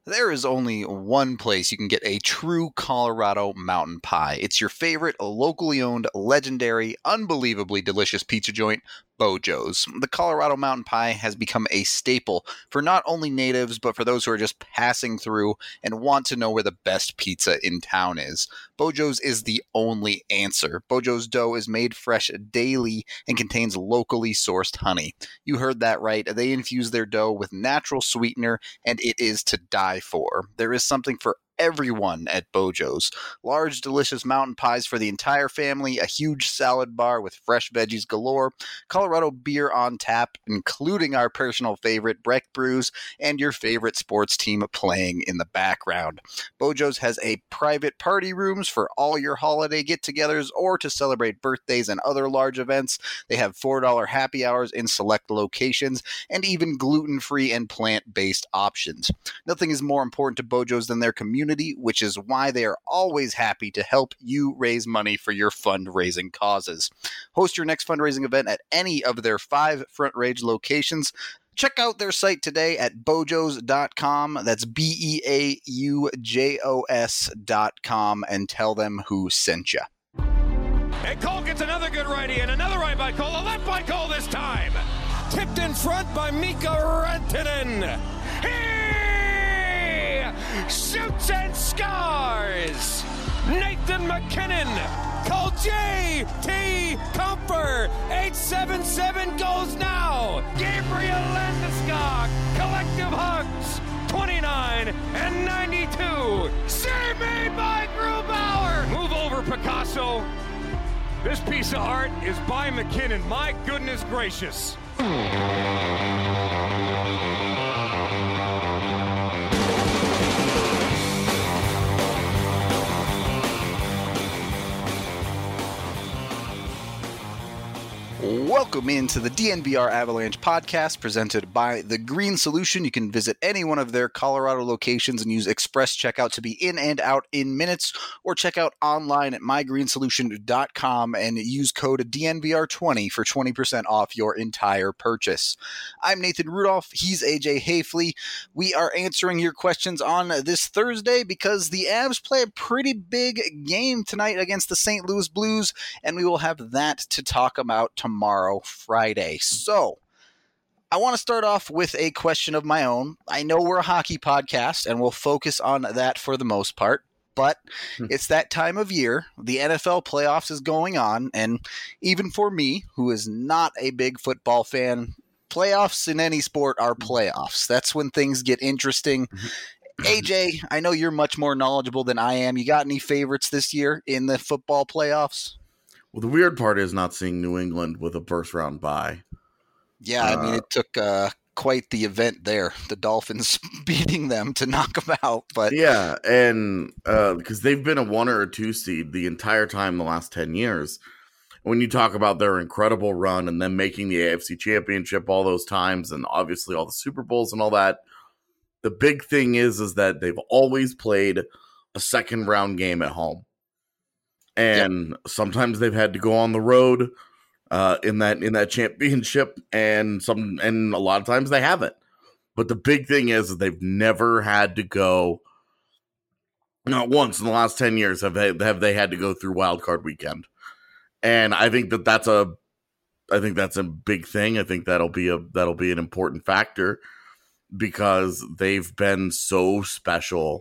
There is only one place you can get a true Colorado mountain pie. It's your favorite, locally owned, legendary, unbelievably delicious pizza joint, Bojo's. The Colorado mountain pie has become a staple for not only natives, but for those who are just passing through and want to know where the best pizza in town is. Bojo's is the only answer. Bojo's dough is made fresh daily and contains locally sourced honey. You heard that right. They infuse their dough with natural sweetener, and it is to die for. There is something for everyone at Bojo's. Large, delicious mountain pies for the entire family, a huge salad bar with fresh veggies galore, Colorado beer on tap, including our personal favorite, Breck Brews, and your favorite sports team playing in the background. Bojo's has a private party rooms for all your holiday get-togethers or to celebrate birthdays and other large events. They have $4 happy hours in select locations and even gluten-free and plant-based options. Nothing is more important to Bojo's than their community, which is why they are always happy to help you raise money for your fundraising causes. Host your next fundraising event at any of their 5 Front Range locations. Check out their site today at bojos.com. That's BEAUJOS.com, and tell them who sent you. And Cole gets another good righty and another right by Cole, a left by Cole this time. Tipped in front by Mika Rantanen. He shoots and scores. Nathan MacKinnon. Call J.T. Comfer. 877 goes now. Gabriel Landeskog. Collective hugs. 29 and 92. Save made by Grubauer. Move over, Picasso. This piece of art is by MacKinnon. My goodness gracious. Welcome into the DNVR Avalanche podcast presented by The Green Solution. You can visit any one of their Colorado locations and use Express Checkout to be in and out in minutes, or check out online at mygreensolution.com and use code DNVR20 for 20% off your entire purchase. I'm Nathan Rudolph. He's AJ Hayfley. We are answering your questions on this Thursday because the Avs play a pretty big game tonight against the St. Louis Blues, and we will have that to talk about tomorrow, Friday. So I want to start off with a question of my own. I know we're a hockey podcast and we'll focus on that for the most part, but it's that time of year. The NFL playoffs is going on, and even for me, who is not a big football fan, playoffs in any sport are playoffs. That's when things get interesting. AJ, I know you're much more knowledgeable than I am. You got any favorites this year in the football playoffs? Well, the weird part is not seeing New England with a first-round bye. Yeah, I mean, it took quite the event there. The Dolphins beating them to knock them out. But yeah, and because they've been a 1 or a 2 seed the entire time the last 10 years. When you talk about their incredible run and them making the AFC Championship all those times and obviously all the Super Bowls and all that, the big thing is that they've always played a second-round game at home. And sometimes they've had to go on the road in that championship, and a lot of times they haven't. But the big thing is that they've never had to go. Not once in the last 10 years have they had to go through Wild Card Weekend, and I think that's a big thing. I think that'll be an important factor because they've been so special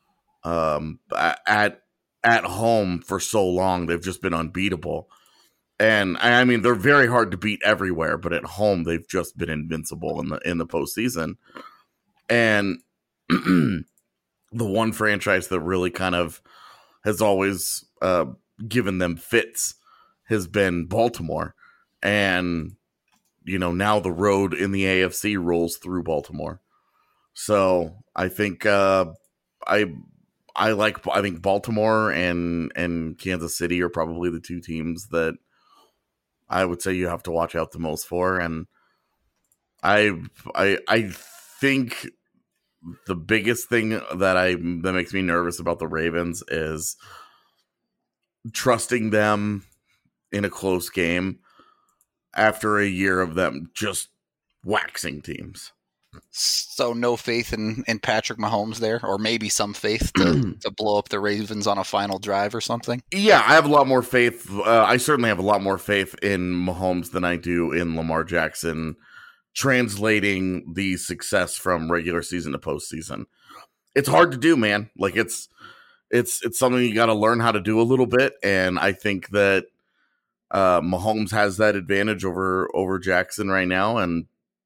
at home for so long. They've just been unbeatable. And I mean, they're very hard to beat everywhere, but at home they've just been invincible in the postseason. And the one franchise that really kind of has always given them fits has been Baltimore. And, you know, now the road in the AFC rolls through Baltimore. So I think I think Baltimore and Kansas City are probably the 2 teams that I would say you have to watch out the most for. And I think the biggest thing that makes me nervous about the Ravens is trusting them in a close game after a year of them just waxing teams. So no faith in Patrick Mahomes there, or maybe some faith to blow up the Ravens on a final drive or something? Yeah, I have a lot more faith. I certainly have a lot more faith in Mahomes than I do in Lamar Jackson translating the success from regular season to postseason. It's hard to do, man. Like it's something you got to learn how to do a little bit, and I think that Mahomes has that advantage over Jackson right now, and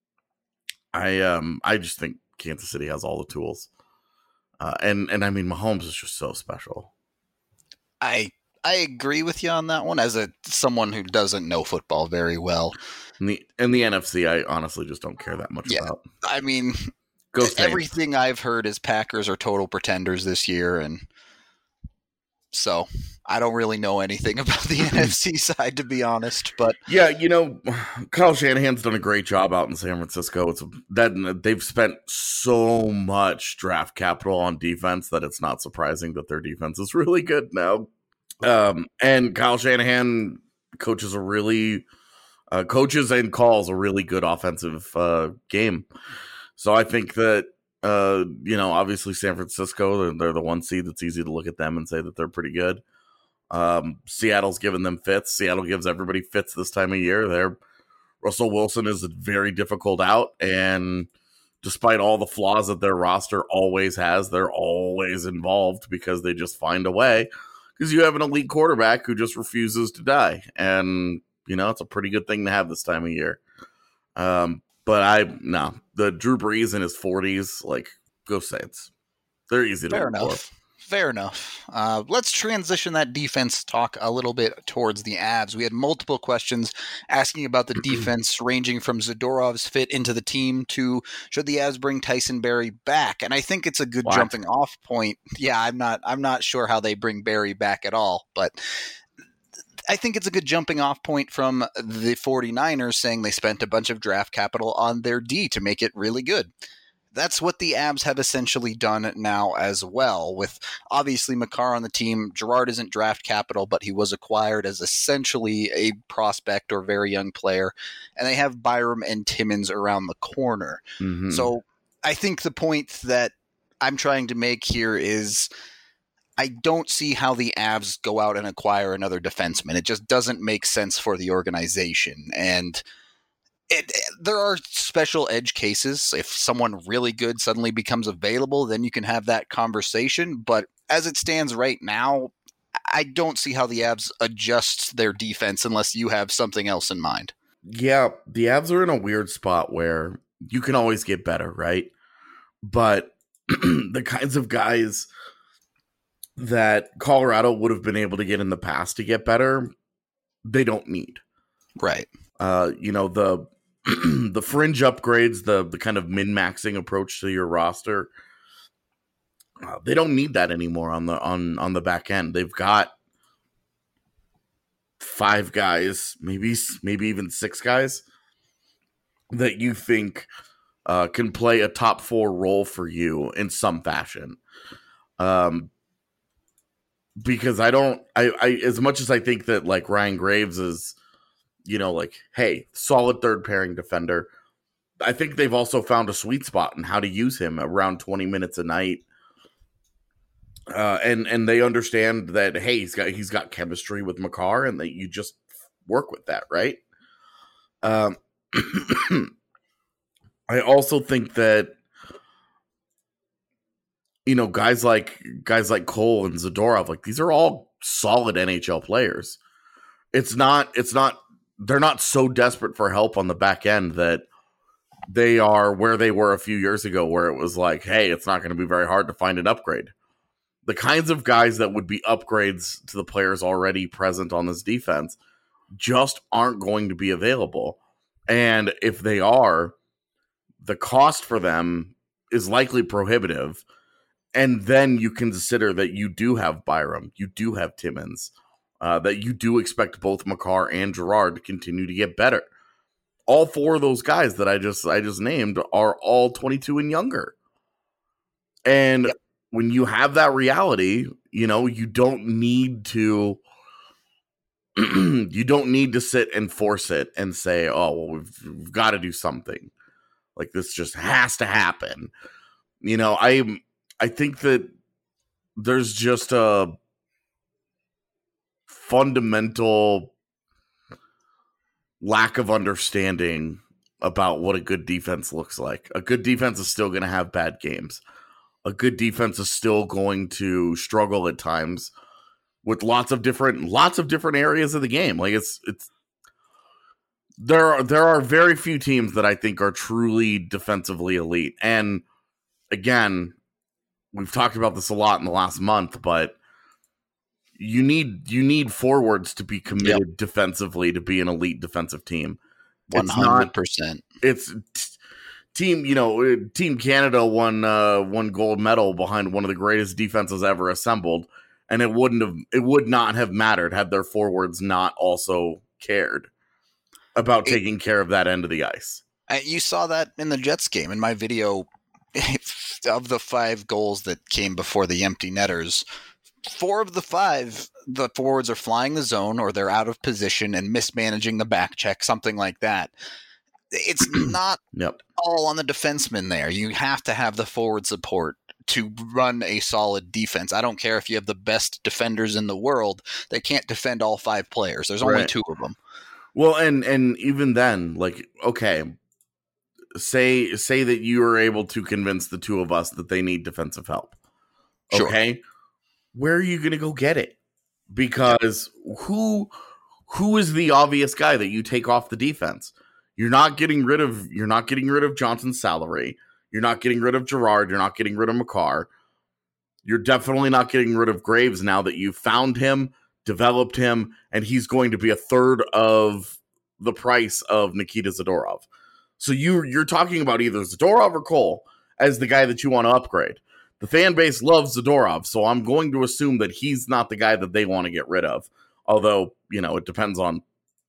I just think Kansas City has all the tools, and I mean Mahomes is just so special. I agree with you on that one as someone who doesn't know football very well. In the NFC, I honestly just don't care that much about. I mean, everything I've heard is Packers are total pretenders this year, and so I don't really know anything about the NFC side, to be honest. But yeah, Kyle Shanahan's done a great job out in San Francisco. They've spent so much draft capital on defense that it's not surprising that their defense is really good now. And Kyle Shanahan coaches and calls a really good offensive game. So I think that obviously San Francisco, they're the one seed. That's easy to look at them and say that they're pretty good. Seattle's giving them fits. Seattle gives everybody fits this time of year. Russell Wilson is a very difficult out, and despite all the flaws that their roster always has, they're always involved because they just find a way. Because you have an elite quarterback who just refuses to die, and it's a pretty good thing to have this time of year. But the Drew Brees in his 40s, like, go Saints. They're easy to root for. Fair enough. Let's transition that defense talk a little bit towards the Avs. We had multiple questions asking about the defense, ranging from Zadorov's fit into the team to should the Avs bring Tyson Barrie back? And I think it's a good jumping off point. Yeah, I'm not sure how they bring Barrie back at all, but I think it's a good jumping off point from the 49ers saying they spent a bunch of draft capital on their D to make it really good. That's what the Avs have essentially done now as well, with obviously Makar on the team. Girard isn't draft capital, but he was acquired as essentially a prospect or very young player. And they have Byram and Timmins around the corner. Mm-hmm. So I think the point that I'm trying to make here is I don't see how the Avs go out and acquire another defenseman. It just doesn't make sense for the organization. And there are special edge cases. If someone really good suddenly becomes available, then you can have that conversation. But as it stands right now, I don't see how the Avs adjust their defense unless you have something else in mind. Yeah, the Avs are in a weird spot where you can always get better, right? But the kinds of guys that Colorado would have been able to get in the past to get better, they don't need. Right. The fringe upgrades, the kind of min-maxing approach to your roster, they don't need that anymore on the back end. They've got 5 guys, maybe even 6 guys that you think can play a top 4 role for you in some fashion. Because I as much as I think that like Ryan Graves is, hey, solid third pairing defender, I think they've also found a sweet spot in how to use him around 20 minutes a night. And they understand that, hey, he's got chemistry with Makar and that you just work with that, right? I also think that, guys like Cole and Zadorov, like these are all solid NHL players. They're not so desperate for help on the back end that they are where they were a few years ago, where it was like, hey, it's not going to be very hard to find an upgrade. The kinds of guys that would be upgrades to the players already present on this defense just aren't going to be available. And if they are, the cost for them is likely prohibitive. And then you consider that you do have Byram, you do have Timmins, that you do expect both Makar and Girard to continue to get better. All 4 of those guys that I just named are all 22 and younger. And when you have that reality, you don't need to sit and force it and say, oh, well, we've got to do something. Like, this just has to happen. You know, I think that there's just a fundamental lack of understanding about what a good defense looks like. A good defense is still going to have bad games. A good defense is still going to struggle at times with lots of different areas of the game. Like, there are very few teams that I think are truly defensively elite. And again, we've talked about this a lot in the last month, but you need forwards to be committed defensively to be an elite defensive team. 100%. It's Team Canada won gold medal behind one of the greatest defenses ever assembled, and it would not have mattered had their forwards not also cared about taking care of that end of the ice. You saw that in the Jets game. In my video, of the 5 goals that came before the empty netters, 4 of the 5, the forwards are flying the zone or they're out of position and mismanaging the back check, something like that. It's not all on the defenseman there. You have to have the forward support to run a solid defense. I don't care if you have the best defenders in the world. They can't defend all 5 players. There's only 2 of them. Well, and even then, like, okay, say that you are able to convince the 2 of us that they need defensive help. Okay? Sure. Where are you going to go get it? Because who is the obvious guy that you take off the defense? You're not getting rid of Johnson's salary. You're not getting rid of Girard. You're not getting rid of Makar. You're definitely not getting rid of Graves now that you found him, developed him, and he's going to be a third of the price of Nikita Zadorov. So you're talking about either Zadorov or Cole as the guy that you want to upgrade. The fan base loves Zadorov, so I'm going to assume that he's not the guy that they want to get rid of. Although, it depends on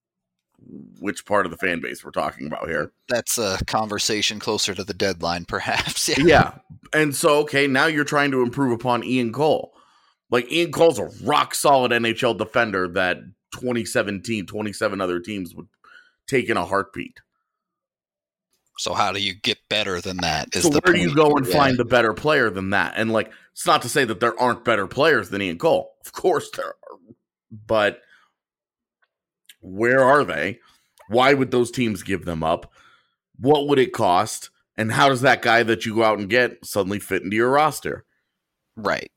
which part of the fan base we're talking about here. That's a conversation closer to the deadline, perhaps. Yeah. And so, okay, now you're trying to improve upon Ian Cole. Like, Ian Cole's a rock-solid NHL defender that 27 other teams would take in a heartbeat. So how do you get better than that? So where do you go and find the better player than that? And, like, it's not to say that there aren't better players than Ian Cole. Of course there are. But where are they? Why would those teams give them up? What would it cost? And how does that guy that you go out and get suddenly fit into your roster? Right.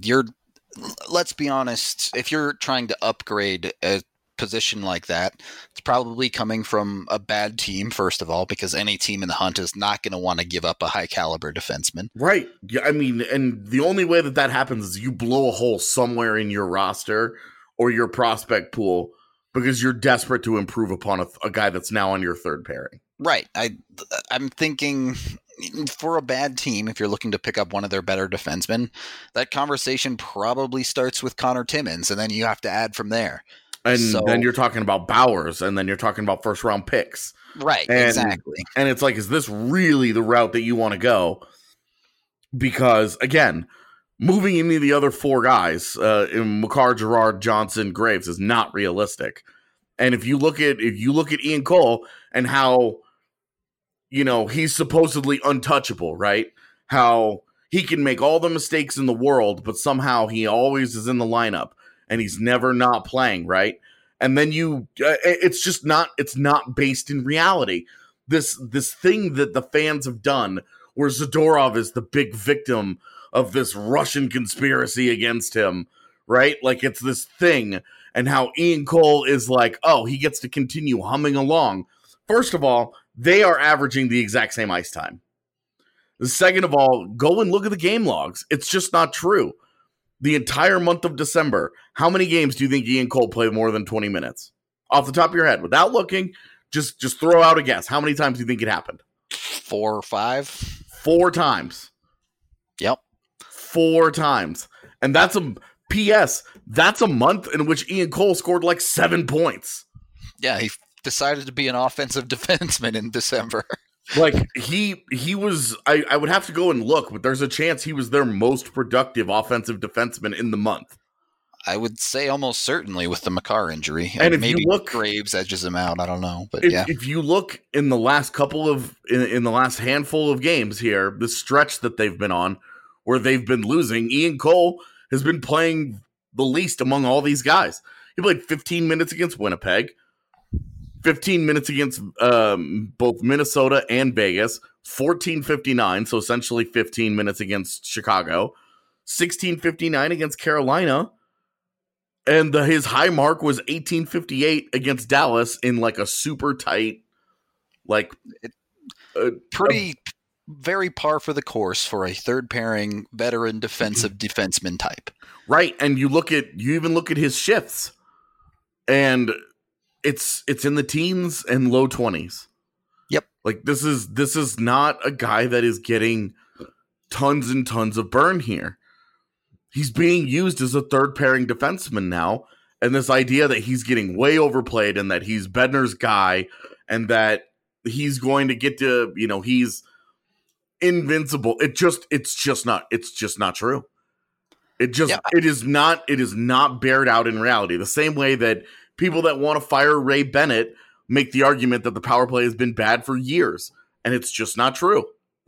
Let's be honest, if you're trying to upgrade a position like that, it's probably coming from a bad team, first of all, because any team in the hunt is not going to want to give up a high caliber defenseman. Right. Yeah, I mean, and the only way that happens is you blow a hole somewhere in your roster or your prospect pool because you're desperate to improve upon a guy that's now on your third pairing. Right. I'm thinking for a bad team, if you're looking to pick up one of their better defensemen, that conversation probably starts with Connor Timmins, and then you have to add from there. And then you're talking about Bowers, and then you're talking about first-round picks. Right, exactly. And it's like, is this really the route that you want to go? Because, again, moving into the other 4 guys, in Makar, Girard, Johnson, Graves, is not realistic. And if you look at Ian Cole and how, he's supposedly untouchable, right? How he can make all the mistakes in the world, but somehow he always is in the lineup. And he's never not playing, right? And then it's not based in reality. This thing that the fans have done where Zadorov is the big victim of this Russian conspiracy against him, right? Like, it's this thing, and how Ian Cole is like, oh, he gets to continue humming along. First of all, they are averaging the exact same ice time. Second of all, go and look at the game logs. It's just not true. The entire month of December, how many games do you think Ian Cole played more than 20 minutes? Off the top of your head, without looking, just throw out a guess. How many times do you think it happened? 4 or 5? 4 times. Yep. 4 times. And that's a month in which Ian Cole scored like 7 points. Yeah, he decided to be an offensive defenseman in December. Like, he was, I would have to go and look, but there's a chance he was their most productive offensive defenseman in the month. I would say almost certainly with the Makar injury. And if maybe you look, Graves edges him out. I don't know, but if you look in the last in the last handful of games here, the stretch that they've been on, where they've been losing, Ian Cole has been playing the least among all these guys. He played 15 minutes against Winnipeg, 15 minutes against both Minnesota and Vegas, 14:59, so essentially 15 minutes against Chicago, 16:59 against Carolina. And his high mark was 18:58 against Dallas in like a super tight, like very par for the course for a third pairing veteran defensive defenseman type. Right, and you even look at his shifts, and it's in the teens and low 20s. Yep, like this is not a guy that is getting tons and tons of burn here. He's being used as a third pairing defenseman now, and this idea that he's getting way overplayed and that he's Bednar's guy and that he's going to get to, he's invincible. It's just not true. It is not bared out in reality. The same way that people that want to fire Ray Bennett make the argument that the power play has been bad for years, and it's just not true.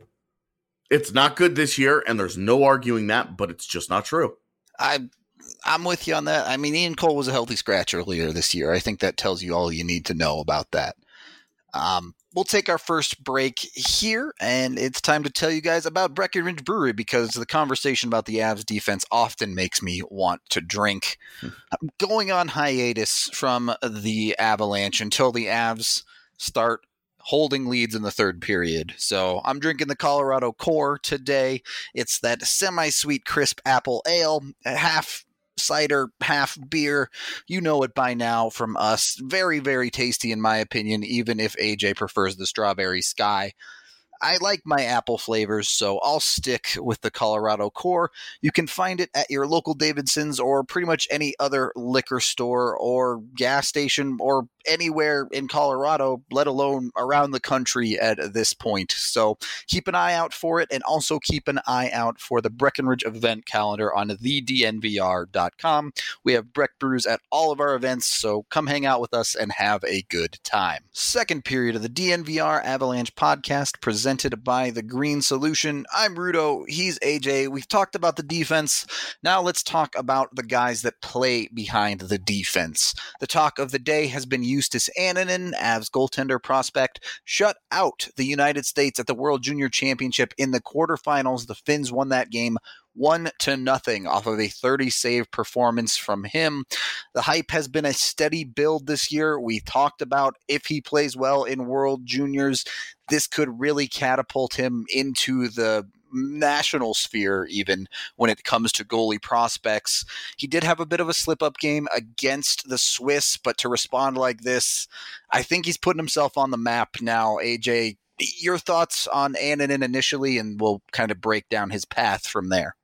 It's not good this year, and there's no arguing that, but it's just not true. I'm with you on that. I mean, Ian Cole was a healthy scratch earlier this year. I think that tells you all you need to know about that. We'll take our first break here, and it's time to tell you guys about Breckenridge Brewery because the conversation about the Avs defense often makes me want to drink. I'm going on hiatus from the Avalanche until the Avs start holding leads in the third period. So I'm drinking the Colorado Core today. It's that semi-sweet crisp apple ale, half cider, half beer. You know it by now from us. Very, very tasty in my opinion, even if AJ prefers the strawberry sky. I like my apple flavors, so I'll stick with the Colorado Core. You can find it at your local Davidson's or pretty much any other liquor store or gas station or anywhere in Colorado, let alone around the country at this point. So keep an eye out for it, and also keep an eye out for the Breckenridge event calendar on thednvr.com. We have Breck Brews at all of our events, so come hang out with us and have a good time. Second period of the DNVR Avalanche podcast presented by The Green Solution. I'm Rudo. He's AJ. We've talked about the defense. Now let's talk about the guys that play behind the defense. The talk of the day has been Justus Annunen, Avs goaltender prospect, shut out the United States at the World Junior Championship in the quarterfinals. The Finns won that game 1-0 off of a 30-save performance from him. The hype has been a steady build this year. We talked about if he plays well in World Juniors, this could really catapult him into the national sphere even when it comes to goalie prospects. He did have a bit of a slip-up game against the Swiss, but to respond like this, I think he's putting himself on the map now. AJ, your thoughts on Annunen initially, and we'll kind of break down his path from there.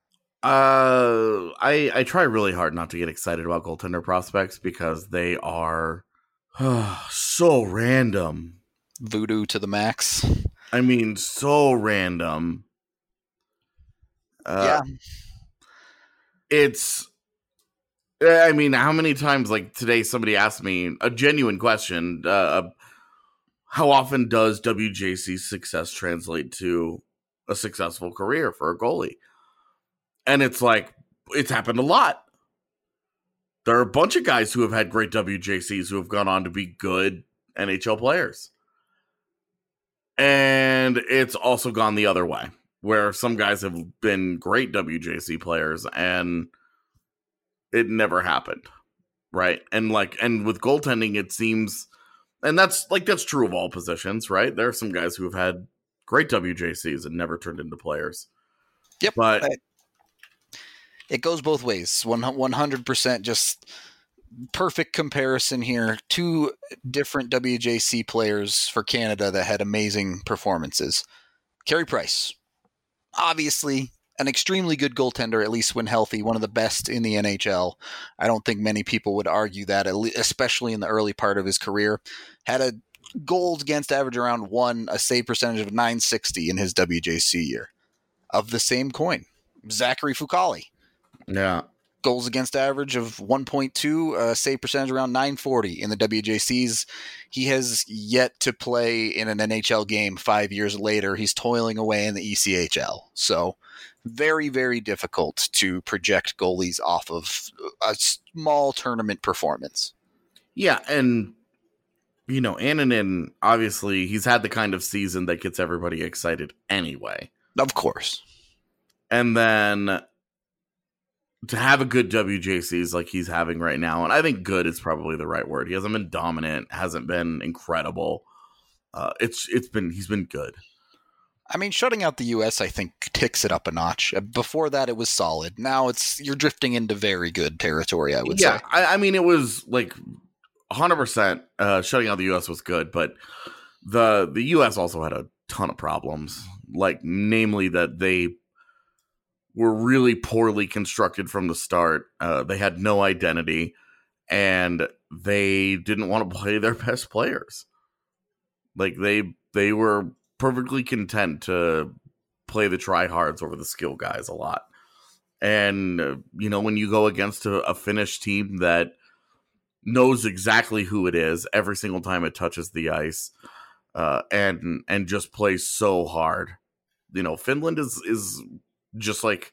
I try really hard not to get excited about goaltender prospects because they are so random. Voodoo to the max. I mean, so random. Yeah. I mean, how many times, like today, somebody asked me a genuine question. How often does WJC's success translate to a successful career for a goalie? And it's like, it's happened a lot. There are a bunch of guys who have had great WJCs who have gone on to be good NHL players. And it's also gone the other way, where some guys have been great WJC players and it never happened. Right. And with goaltending, it seems, and that's true of all positions, right? There are some guys who have had great WJCs and never turned into players. Yep. But it goes both ways. 100% just perfect comparison here. Two different WJC players for Canada that had amazing performances. Carey Price, obviously an extremely good goaltender, at least when healthy, one of the best in the NHL. I don't think many people would argue that, especially in the early part of his career. Had a goals against average around 1, a save percentage of .960 in his WJC year. Of the same coin, Zachary Fucale. Yeah. goals against average of 1.2, save percentage around 940 in the WJCs. He has yet to play in an NHL game 5 years later. He's toiling away in the ECHL. So very, very difficult to project goalies off of a small tournament performance. Yeah, and Annunen, obviously, he's had the kind of season that gets everybody excited anyway. Of course. And then to have a good WJCs like he's having right now, and I think good is probably the right word. He hasn't been dominant, hasn't been incredible. He's been good. I mean, shutting out the U.S., I think, ticks it up a notch. Before that, it was solid. Now you're drifting into very good territory, I would say. Yeah, I mean, it was like 100% shutting out the U.S. was good, but the U.S. also had a ton of problems, like namely that they were really poorly constructed from the start. They had no identity, and they didn't want to play their best players. Like they were perfectly content to play the tryhards over the skill guys a lot. And when you go against a Finnish team that knows exactly who it is every single time it touches the ice, and just plays so hard, Finland is just like,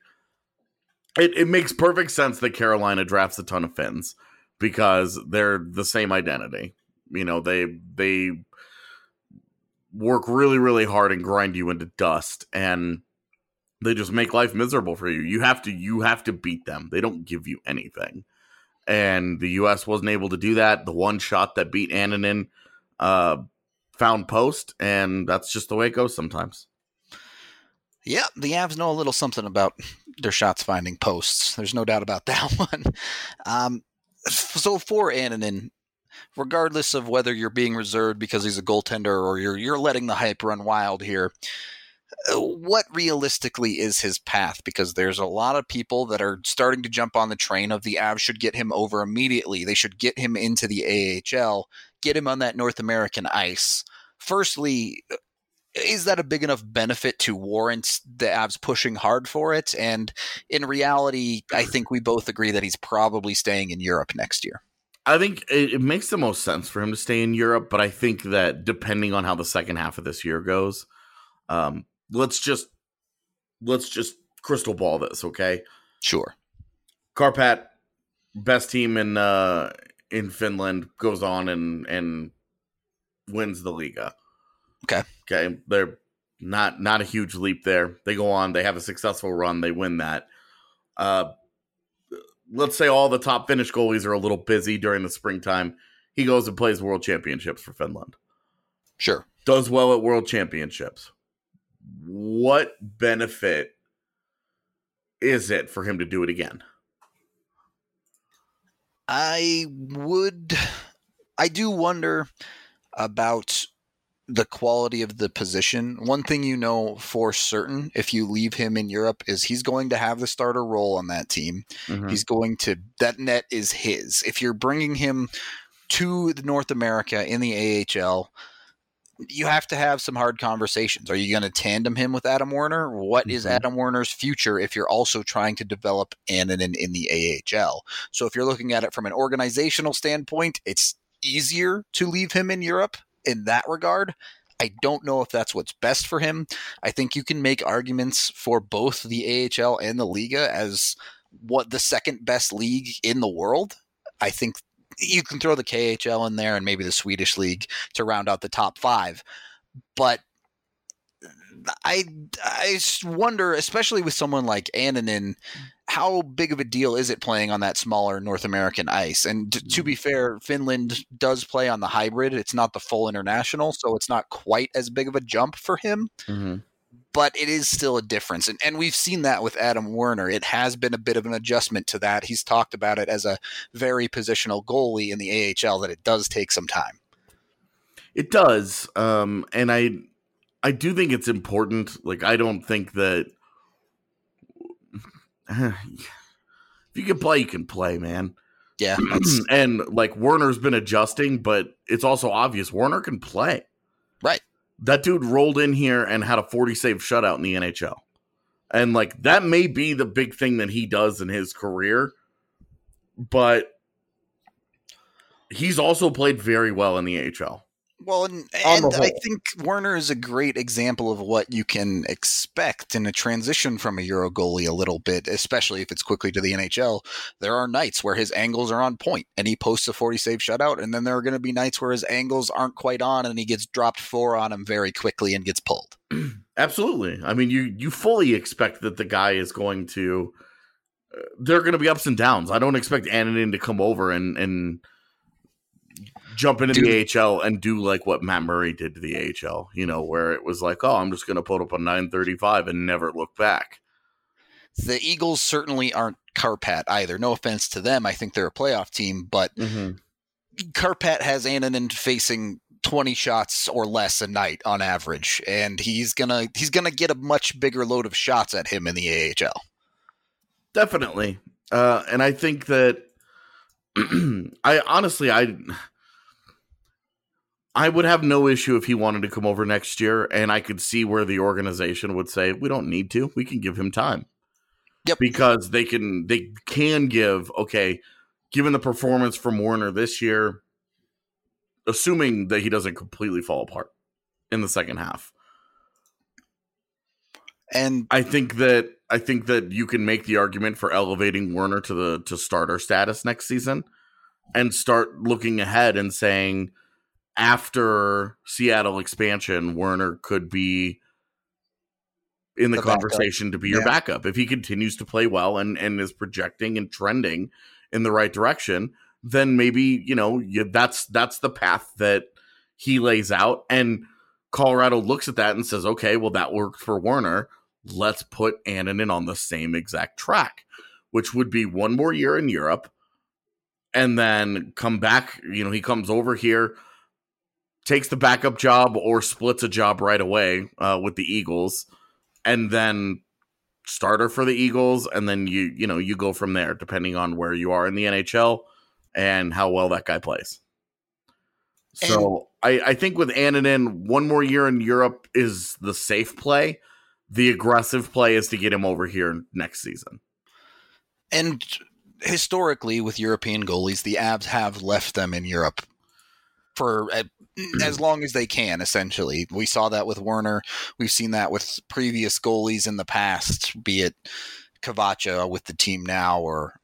it makes perfect sense that Carolina drafts a ton of Finns because they're the same identity. They work really, really hard and grind you into dust, and they just make life miserable for you. You have to beat them. They don't give you anything. And the U.S. wasn't able to do that. The one shot that beat Annunen found post, and that's just the way it goes sometimes. Yeah, the Avs know a little something about their shots finding posts. There's no doubt about that one. So for Annunen, regardless of whether you're being reserved because he's a goaltender or you're letting the hype run wild here, what realistically is his path? Because there's a lot of people that are starting to jump on the train of the Avs should get him over immediately. They should get him into the AHL, get him on that North American ice. Firstly, is that a big enough benefit to warrant the Avs pushing hard for it? And in reality, I think we both agree that he's probably staying in Europe next year. I think it makes the most sense for him to stay in Europe, but I think that depending on how the second half of this year goes, let's just crystal ball this, okay? Sure. Karpat, best team in Finland, goes on and wins the Liga. Okay. They're not a huge leap there. They go on, they have a successful run, they win that. Let's say all the top Finnish goalies are a little busy during the springtime. He goes and plays World Championships for Finland. Sure. Does well at World Championships. What benefit is it for him to do it again? I do wonder about the quality of the position. One thing for certain, if you leave him in Europe, is he's going to have the starter role on that team. Mm-hmm. That net is his. If you're bringing him to North America in the AHL, you have to have some hard conversations. Are you going to tandem him with Adam Werner? What is Adam Werner's future if you're also trying to develop Annunen in the AHL? So if you're looking at it from an organizational standpoint, it's easier to leave him in Europe in that regard. I don't know if that's what's best for him. I think you can make arguments for both the AHL and the Liga as what the second best league in the world. I think you can throw the KHL in there and maybe the Swedish league to round out the top five. But I wonder, especially with someone like Annunen, how big of a deal is it playing on that smaller North American ice? And to be fair, Finland does play on the hybrid. It's not the full international, so it's not quite as big of a jump for him. Mm-hmm. But it is still a difference. And we've seen that with Adam Werner. It has been a bit of an adjustment to that. He's talked about it as a very positional goalie in the AHL, that it does take some time. It does. And I do think it's important. Like, I don't think that if you can play, you can play, man. Yeah. And like, Werner's been adjusting, but it's also obvious Werner can play. Right. That dude rolled in here and had a 40 save shutout in the NHL. And like, that may be the big thing that he does in his career. but he's also played very well in the AHL. Well, and I think Werner is a great example of what you can expect in a transition from a Euro goalie a little bit, especially if it's quickly to the NHL. There are nights where his angles are on point and he posts a 40-save shutout, and then there are going to be nights where his angles aren't quite on and he gets dropped 4 on him very quickly and gets pulled. Absolutely. I mean, you fully expect that the guy is going to there are going to be ups and downs. I don't expect Annunen to come over and jump into the AHL and do like what Matt Murray did to the AHL, where it was like, oh, I'm just going to put up a 935 and never look back. The Eagles certainly aren't Karpat either. No offense to them. I think they're a playoff team, but Karpat has Annunen facing 20 shots or less a night on average, and he's gonna get a much bigger load of shots at him in the AHL. Definitely. And I think that I would have no issue if he wanted to come over next year, and I could see where the organization would say, we don't need to. We can give him time. Yep. Because they can give, okay, given the performance from Werner this year, assuming that he doesn't completely fall apart in the second half. And I think that you can make the argument for elevating Werner to starter status next season and start looking ahead and saying, after Seattle expansion, Werner could be in the conversation to be your backup. If he continues to play well and is projecting and trending in the right direction, then maybe, that's the path that he lays out. And Colorado looks at that and says, okay, well, that worked for Werner. Let's put Annunen on the same exact track, which would be one more year in Europe and then come back. He comes over here, takes the backup job or splits a job right away with the Eagles, and then starter for the Eagles. And then you go from there, depending on where you are in the NHL and how well that guy plays. So I think with Annunen, one more year in Europe is the safe play. The aggressive play is to get him over here next season. And historically, with European goalies, the Avs have left them in Europe for as long as they can, essentially. We saw that with Werner. We've seen that with previous goalies in the past, be it Kavacha with the team now or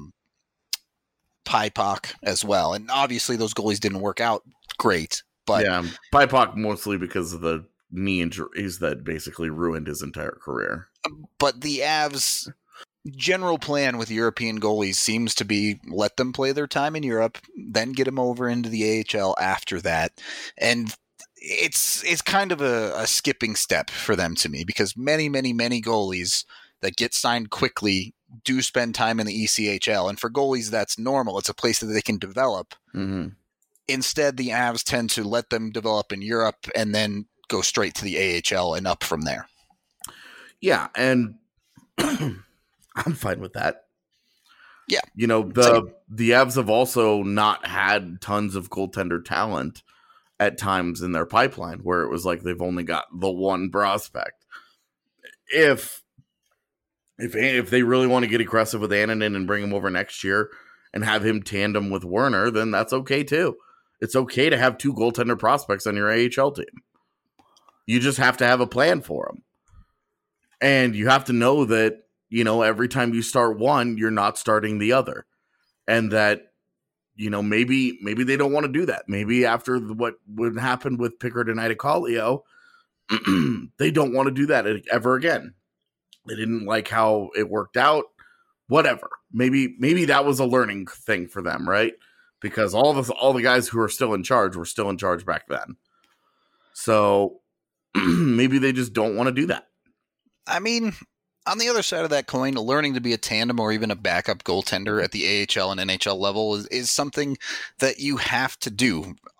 Paipak as well. And obviously those goalies didn't work out great. But yeah, Paipak mostly because of the knee injuries that basically ruined his entire career. But the Avs' general plan with European goalies seems to be let them play their time in Europe, then get them over into the AHL after that. And it's kind of a skipping step for them to me, because many, many, many goalies that get signed quickly do spend time in the ECHL. And for goalies, that's normal. It's a place that they can develop. Mm-hmm. Instead, the Avs tend to let them develop in Europe and then go straight to the AHL and up from there. Yeah, and I'm fine with that. Yeah. The Avs have also not had tons of goaltender talent at times in their pipeline, where it was like they've only got the one prospect. If they really want to get aggressive with Annunen and bring him over next year and have him tandem with Werner, then that's okay too. It's okay to have two goaltender prospects on your AHL team. You just have to have a plan for them. And you have to know that, every time you start one, you're not starting the other. And that, maybe they don't want to do that. Maybe after what would happen with Pickard and Itacalio, they don't want to do that ever again. They didn't like how it worked out. Whatever. Maybe that was a learning thing for them, right? Because all the guys who are still in charge were still in charge back then. So maybe they just don't want to do that. I mean, on the other side of that coin, learning to be a tandem or even a backup goaltender at the AHL and NHL level is something that you have to do.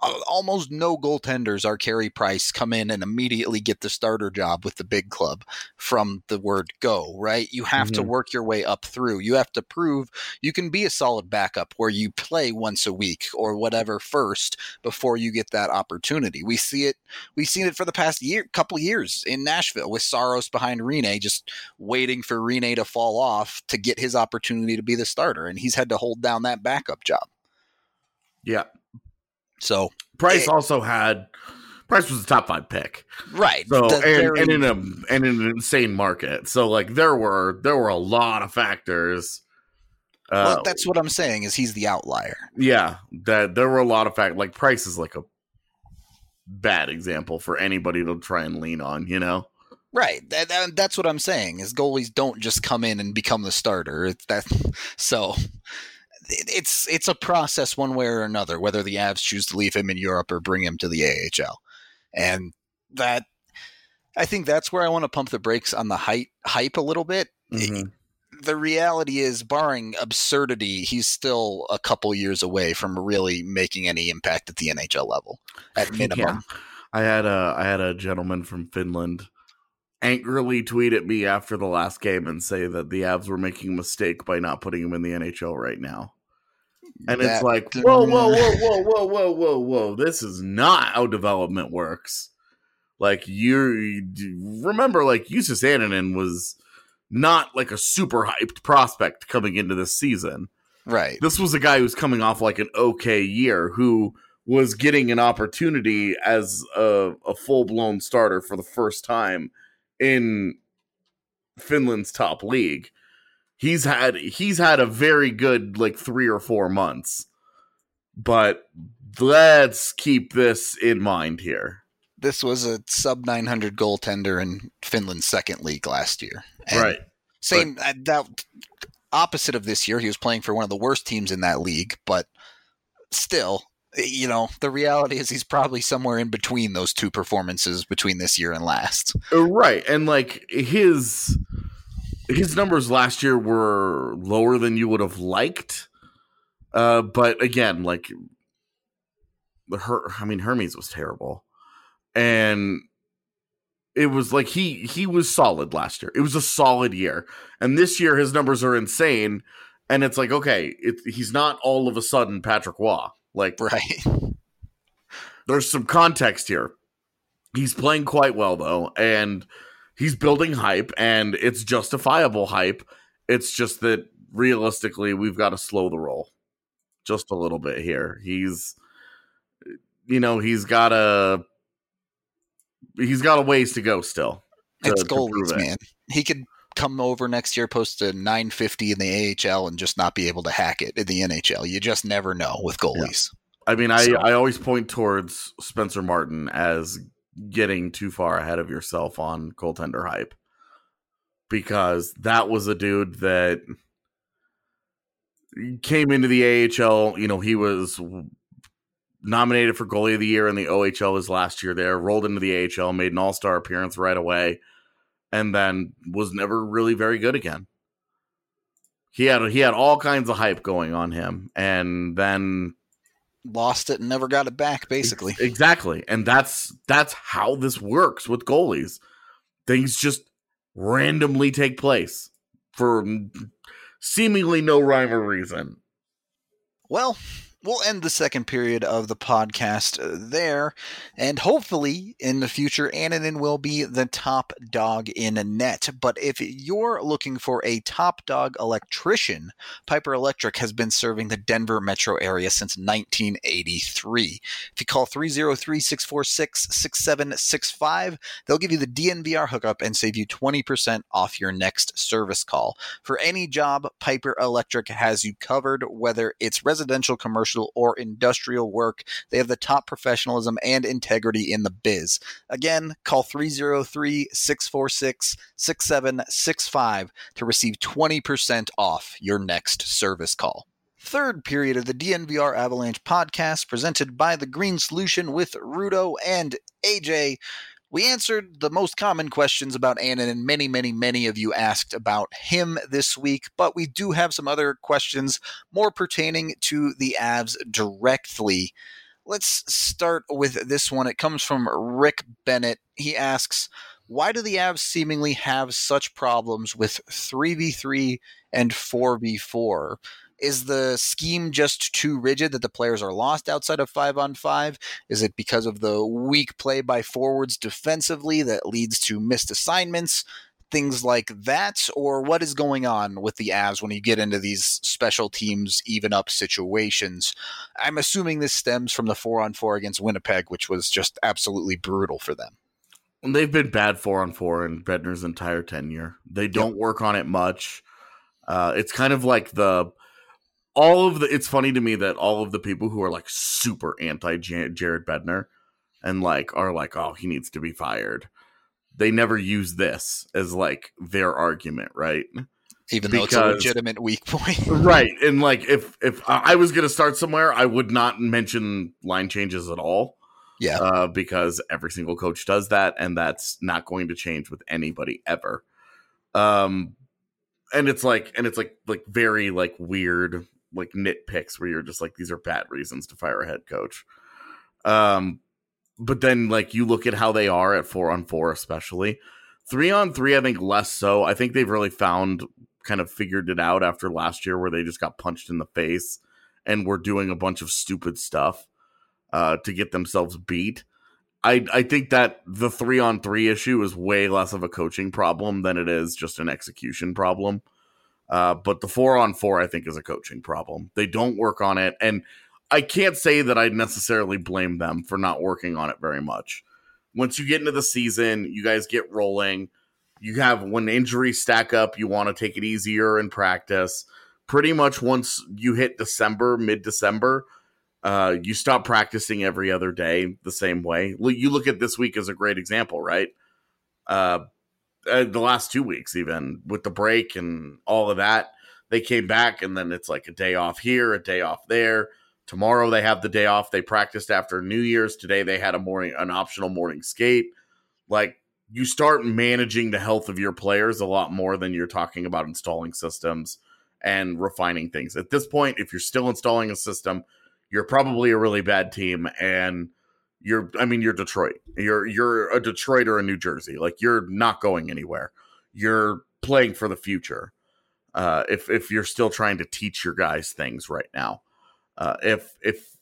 almost no goaltenders are Carey Price come in and immediately get the starter job with the big club from the word go, right? You have to work your way up through. You have to prove you can be a solid backup where you play once a week or whatever first before you get that opportunity. We've seen it for the past couple years in Nashville with Saros behind Rinne, just waiting for Rinne to fall off to get his opportunity to be the starter, and he's had to hold down that backup job. Yeah. So Price was a top 5 pick, right? So and in an insane market. So like there were a lot of factors. Well, that's what I'm saying is he's the outlier. Yeah, that there were a lot of factors. Like Price is like a bad example for anybody to try and lean on, you know? Right. That's what I'm saying is goalies don't just come in and become the starter. It's a process one way or another, whether the Avs choose to leave him in Europe or bring him to the AHL. And that, I think that's where I want to pump the brakes on the hype a little bit. Mm-hmm. The reality is, barring absurdity, he's still a couple years away from really making any impact at the NHL level, at minimum. Yeah. I had a gentleman from Finland angrily tweet at me after the last game and say that the Avs were making a mistake by not putting him in the NHL right now. And it's like, whoa. This is not how development works. Like, you remember, like, Justus Annunen was not like a super hyped prospect coming into this season. Right. This was a guy who's coming off like an okay year who was getting an opportunity as a full-blown starter for the first time in Finland's top league. He's had a very good like 3 or 4 months, but let's keep this in mind here. This was a sub 900 goaltender in Finland's second league last year. And right. Opposite of this year, he was playing for one of the worst teams in that league, but still, you know, the reality is he's probably somewhere in between those two performances between this year and last. Right. And like his numbers last year were lower than you would have liked. But again, like Hermes was terrible. And it was like he was solid last year. It was a solid year. And this year his numbers are insane. And it's like, okay, he's not all of a sudden Patrick Waugh. Like, right. There's some context here. He's playing quite well though, and he's building hype, and it's justifiable hype. It's just that realistically, we've got to slow the roll just a little bit here. He's got a ways to go still. It's goalies, man. He could come over next year, post a 950 in the AHL, and just not be able to hack it in the NHL. You just never know with goalies. Yeah. I mean, I always point towards Spencer Martin as getting too far ahead of yourself on goaltender hype, because that was a dude that came into the AHL. You know, he was nominated for goalie of the year in the OHL his last year there, rolled into the AHL, made an all-star appearance right away, and then was never really very good again. He had all kinds of hype going on him, and then lost it and never got it back, basically. Exactly. And that's how this works with goalies. Things just randomly take place for seemingly no rhyme or reason. Well, we'll end the second period of the podcast there, and hopefully in the future, Annunen will be the top dog in a net. But if you're looking for a top dog electrician, Piper Electric has been serving the Denver metro area since 1983. If you call 303-646-6765, they'll give you the DNVR hookup and save you 20% off your next service call. For any job, Piper Electric has you covered, whether it's residential, commercial, or industrial work. They have the top professionalism and integrity in the biz. Again, call 303-646-6765 to receive 20% off your next service call. Third period of the DNVR Avalanche podcast, presented by The Green Solution with Rudo and AJ. We answered the most common questions about Annunen, and many of you asked about him this week, but we do have some other questions more pertaining to the Avs directly. Let's start with this one. It comes from Rick Bennett. He asks, why do the Avs seemingly have such problems with 3v3 and 4v4? Is the scheme just too rigid that the players are lost outside of 5-on-5? Is it because of the weak play by forwards defensively that leads to missed assignments? Things like that? Or what is going on with the Avs when you get into these special teams even up situations? I'm assuming this stems from the 4-on-4 against Winnipeg, which was just absolutely brutal for them. They've been bad 4-on-4 in Bednar's entire tenure. They don't work on it much. It's kind of like it's funny to me that all of the people who are like super anti Jared Bednar and like are like, oh, he needs to be fired, they never use this as like their argument, right? Even though it's a legitimate weak point. Right. And like if I was going to start somewhere, I would not mention line changes at all. Yeah. Because every single coach does that, and that's not going to change with anybody ever. And it's like very like weird like nitpicks where you're just like, these are bad reasons to fire a head coach. But then like you look at how they are at 4-on-4, especially 3-on-3, I think less so. I think they've really kind of figured it out after last year where they just got punched in the face and were doing a bunch of stupid stuff to get themselves beat. I think that the 3-on-3 issue is way less of a coaching problem than it is just an execution problem. But the 4-on-4, I think, is a coaching problem. They don't work on it. And I can't say that I necessarily blame them for not working on it very much. Once you get into the season, you guys get rolling. You have, when injuries stack up, you want to take it easier in practice. Pretty much once you hit December, mid-December, you stop practicing every other day the same way. You look at this week as a great example, right? The last 2 weeks, even with the break and all of that, they came back and then it's like a day off here, a day off there. Tomorrow they have the day off. They practiced after New Year's. Today they had an optional morning skate. Like, you start managing the health of your players a lot more than you're talking about installing systems and refining things. At this point, if you're still installing a system, you're probably a really bad team, and you're Detroit. You're a Detroit or a New Jersey. Like, you're not going anywhere. You're playing for the future. If you're still trying to teach your guys things right now. If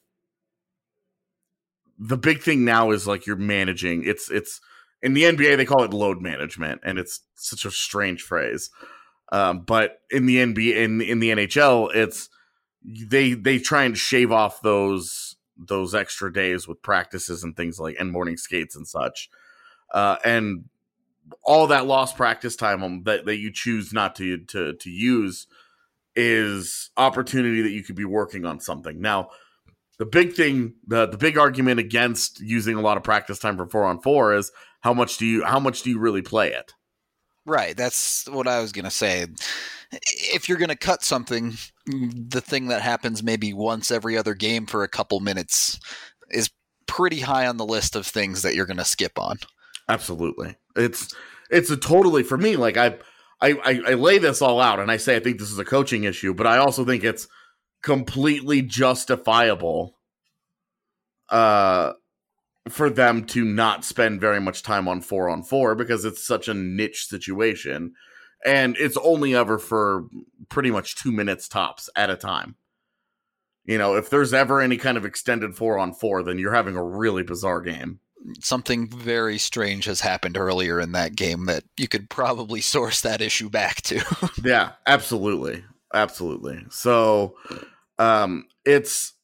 the big thing now is like you're managing, it's in the NBA they call it load management, and it's such a strange phrase. But in the NBA, in the NHL, it's they try and shave off those extra days with practices and things like, and morning skates and such, and all that lost practice time that you choose not to use is opportunity that you could be working on something. Now, the big thing, the big argument against using a lot of practice time for 4-on-4 is how much do you really play it? Right. That's what I was going to say. If you're going to cut something, the thing that happens maybe once every other game for a couple minutes is pretty high on the list of things that you're going to skip on. Absolutely. It's a totally, for me, like I lay this all out and I say I think this is a coaching issue, but I also think it's completely justifiable for them to not spend very much time on 4-on-4 because it's such a niche situation, and it's only ever for pretty much 2 minutes tops at a time. You know, if there's ever any kind of extended 4-on-4, then you're having a really bizarre game. Something very strange has happened earlier in that game that you could probably source that issue back to. Yeah, absolutely. Absolutely. So, it's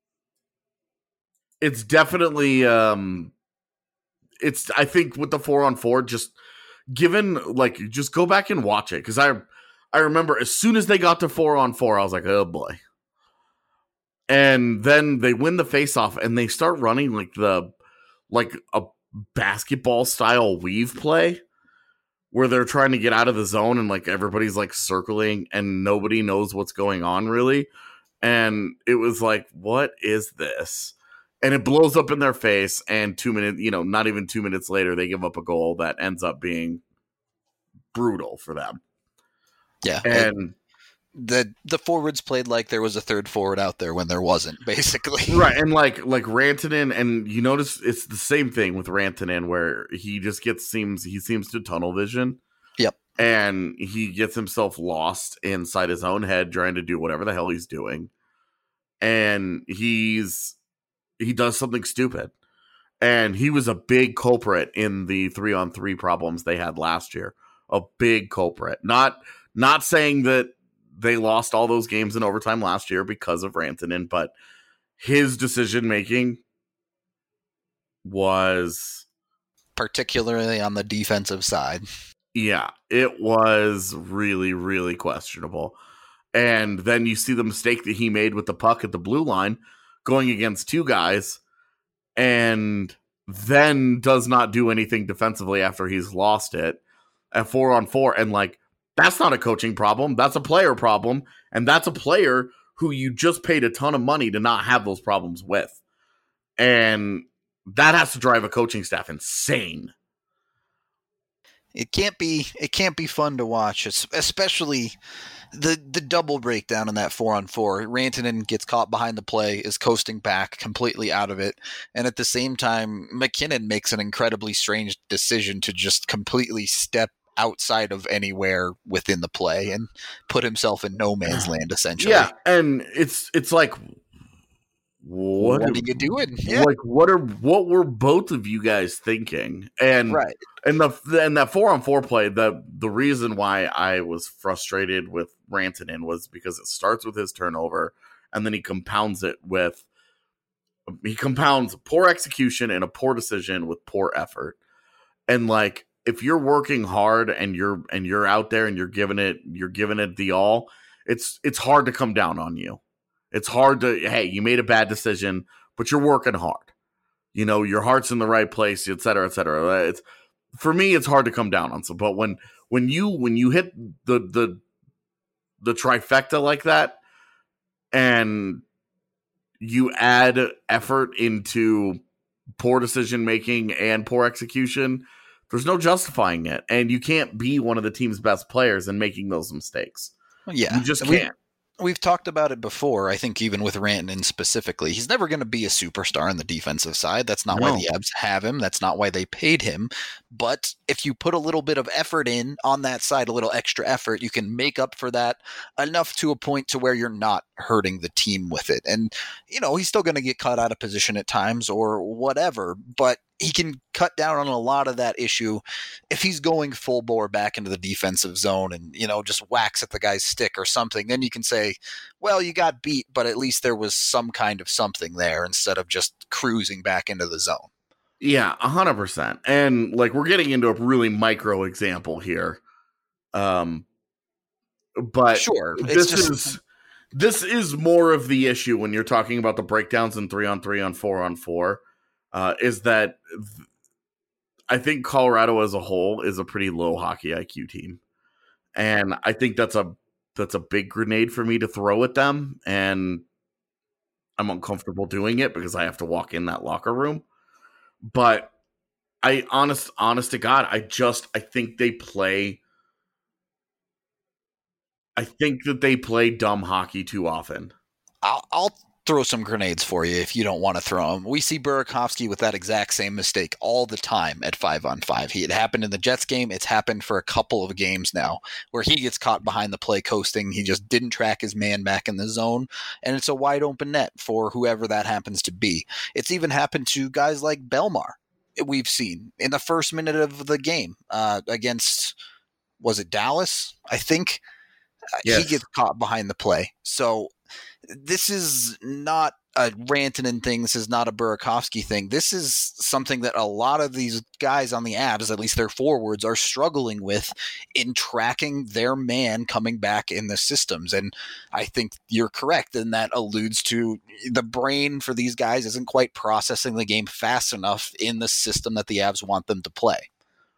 definitely, I think with the 4-on-4, just go back and watch it. Cause I remember as soon as they got to 4-on-4, I was like, oh boy. And then they win the face-off and they start running like a basketball style weave play where they're trying to get out of the zone and like everybody's like circling and nobody knows what's going on really. And it was like, what is this? And it blows up in their face, and 2 minutes, not even 2 minutes later, they give up a goal that ends up being brutal for them. Yeah. And the forwards played like there was a third forward out there when there wasn't, basically. Right, and like Rantanen, and you notice it's the same thing with Rantanen, where he just seems to tunnel vision. Yep. And he gets himself lost inside his own head trying to do whatever the hell he's doing. And he does something stupid. And he was a big culprit in the 3-on-3 problems they had last year. A big culprit. Not saying that they lost all those games in overtime last year because of Rantanen, but his decision making was particularly on the defensive side. Yeah, it was really, really questionable. And then you see the mistake that he made with the puck at the blue line going against two guys, and then does not do anything defensively after he's lost it at 4-on-4. And like, that's not a coaching problem. That's a player problem. And that's a player who you just paid a ton of money to not have those problems with. And that has to drive a coaching staff insane. It can't be fun to watch, especially the double breakdown in that 4-on-4. Rantanen gets caught behind the play, is coasting back, completely out of it, and at the same time, MacKinnon makes an incredibly strange decision to just completely step outside of anywhere within the play and put himself in no man's land, essentially. Yeah, and it's like, what are you doing? Yeah. Like, what were both of you guys thinking? And right. And that 4-on-4 play, the reason why I was frustrated with Rantanen was because it starts with his turnover, and then he compounds poor execution and a poor decision with poor effort. And like, if you're working hard and you're out there and you're giving it the all, it's hard to come down on you. It's hard to, hey, you made a bad decision, but you're working hard. You know, your heart's in the right place, et cetera, et cetera. For me, it's hard to come down on some. But when you hit the trifecta like that, and you add effort into poor decision making and poor execution, there's no justifying it. And you can't be one of the team's best players and making those mistakes. Yeah, you just can't. We've talked about it before, I think even with Rantanen specifically. He's never going to be a superstar on the defensive side. That's not why the Avs have him. That's not why they paid him. But if you put a little bit of effort in on that side, a little extra effort, you can make up for that enough to a point to where you're not hurting the team with it. And, you know, he's still going to get caught out of position at times or whatever, but he can cut down on a lot of that issue if he's going full bore back into the defensive zone and, you know, just whacks at the guy's stick or something. Then you can say, well, you got beat, but at least there was some kind of something there instead of just cruising back into the zone. Yeah, 100%. And like, we're getting into a really micro example here. But sure, this is more of the issue when you're talking about the breakdowns in 3-on-3 on 4-on-4. Is that I think Colorado as a whole is a pretty low hockey IQ team. And I think that's a big grenade for me to throw at them. And I'm uncomfortable doing it because I have to walk in that locker room. But honest to God, I think they play. I think that they play dumb hockey too often. I'll throw some grenades for you if you don't want to throw them. We see Burakovsky with that exact same mistake all the time at 5-on-5. It happened in the Jets game. It's happened for a couple of games now where he gets caught behind the play coasting. He just didn't track his man back in the zone, and it's a wide open net for whoever that happens to be. It's even happened to guys like Belmar. We've seen in the first minute of the game against, was it Dallas? I think. Yes. He gets caught behind the play. So this is not a Rantanen thing. This is not a Burakovsky thing. This is something that a lot of these guys on the Avs, at least their forwards, are struggling with in tracking their man coming back in the systems. And I think you're correct, and that alludes to the brain for these guys isn't quite processing the game fast enough in the system that the Avs want them to play.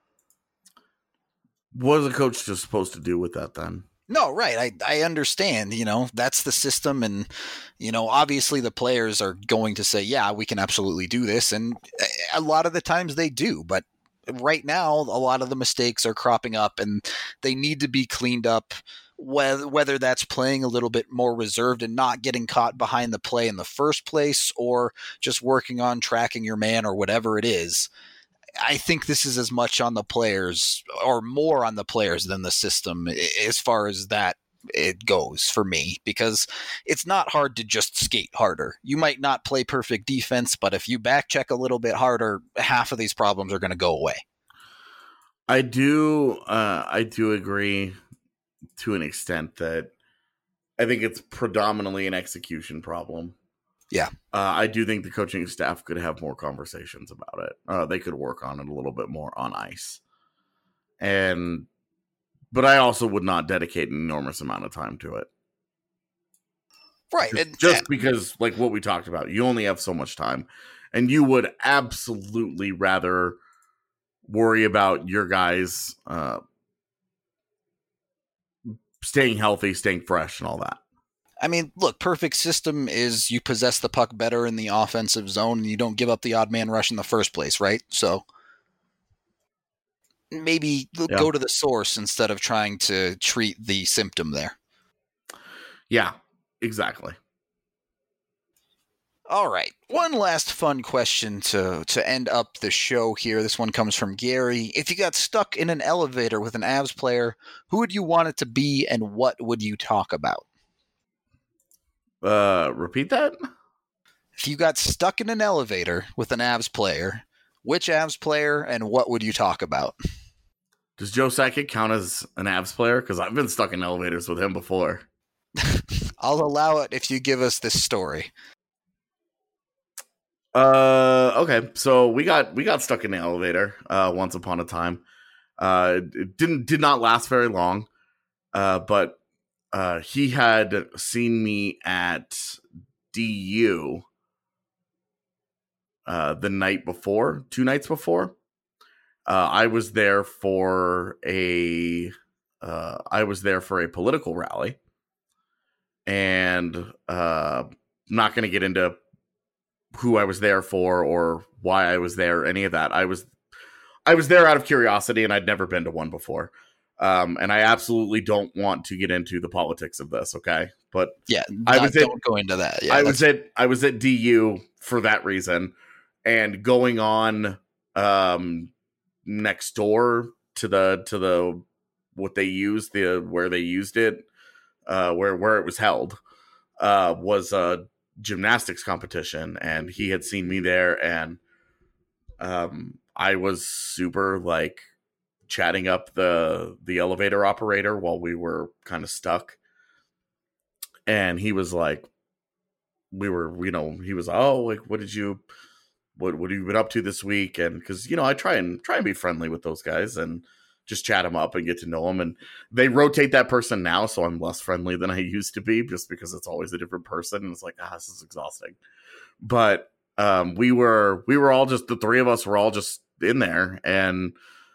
What is a coach just supposed to do with that then? No, right. I understand, you know, that's the system. And, you know, obviously the players are going to say, yeah, we can absolutely do this. And a lot of the times they do. But right now, a lot of the mistakes are cropping up and they need to be cleaned up whether that's playing a little bit more reserved and not getting caught behind the play in the first place, or just working on tracking your man or whatever it is. I think this is as much on the players or more on the players than the system as far as that it goes for me, because it's not hard to just skate harder. You might not play perfect defense, but if you back check a little bit harder, half of these problems are going to go away. I do agree to an extent that I think it's predominantly an execution problem. Yeah. I do think the coaching staff could have more conversations about it. They could work on it a little bit more on ice. But I also would not dedicate an enormous amount of time to it. Right. Just because, like what we talked about, you only have so much time. And you would absolutely rather worry about your guys staying healthy, staying fresh, and all that. I mean, look, perfect system is you possess the puck better in the offensive zone and you don't give up the odd man rush in the first place, right? So maybe go to the source instead of trying to treat the symptom there. Yeah, exactly. All right. One last fun question to end up the show here. This one comes from Gary. If you got stuck in an elevator with an Avs player, who would you want it to be and what would you talk about? Repeat that? If you got stuck in an elevator with an Avs player, which Avs player and what would you talk about? Does Joe Sakic count as an Avs player? Because I've been stuck in elevators with him before. I'll allow it if you give us this story. Okay. So we got stuck in the elevator once upon a time. It did not last very long. But he had seen me at DU the night before, 2 nights before. I was there for a political rally, and not going to get into who I was there for or why I was there, any of that. I was there out of curiosity, and I'd never been to one before. And I absolutely don't want to get into the politics of this, okay? But yeah, don't go into that. Yeah, I was at DU for that reason, and going on next door to the what they used, where they used it, where it was held, was a gymnastics competition, and he had seen me there, and I was super like chatting up the elevator operator while we were kind of stuck, and he was like, he was, oh, like, what have you been up to this week? And because I try and be friendly with those guys and just chat them up and get to know them, and they rotate that person now, so I'm less friendly than I used to be, just because it's always a different person, and it's like, this is exhausting. But we were all just, the three of us were all just in there, and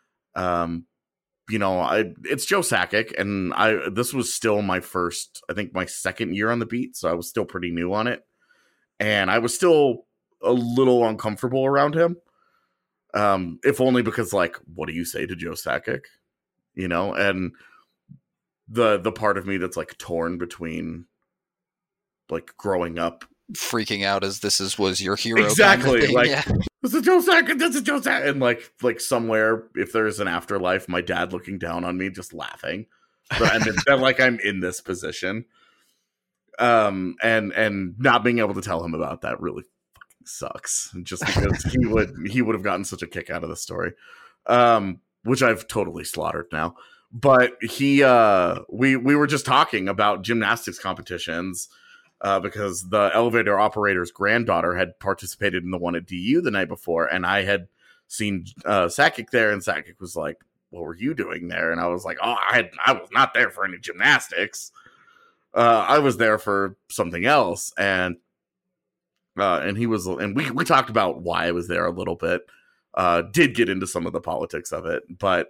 it's Joe Sakic, and this was still my second year on the beat, so I was still pretty new on it, and I was still a little uncomfortable around him, if only because, like, what do you say to Joe Sakic, and the part of me that's like torn between like growing up, freaking out as was your hero, exactly, kind of like, yeah. This is Joe Sakic, this is Joe Sakic, and like somewhere, if there's an afterlife, my dad looking down on me, just laughing, that like I'm in this position, and not being able to tell him about that really fucking sucks, just because he would have gotten such a kick out of the story, which I've totally slaughtered now. But we were just talking about gymnastics competitions, because the elevator operator's granddaughter had participated in the one at DU the night before, and I had seen Sakic there, and Sakic was like, what were you doing there? And I was like, I was not there for any gymnastics. I was there for something else. And he was, and we talked about why I was there a little bit, did get into some of the politics of it, but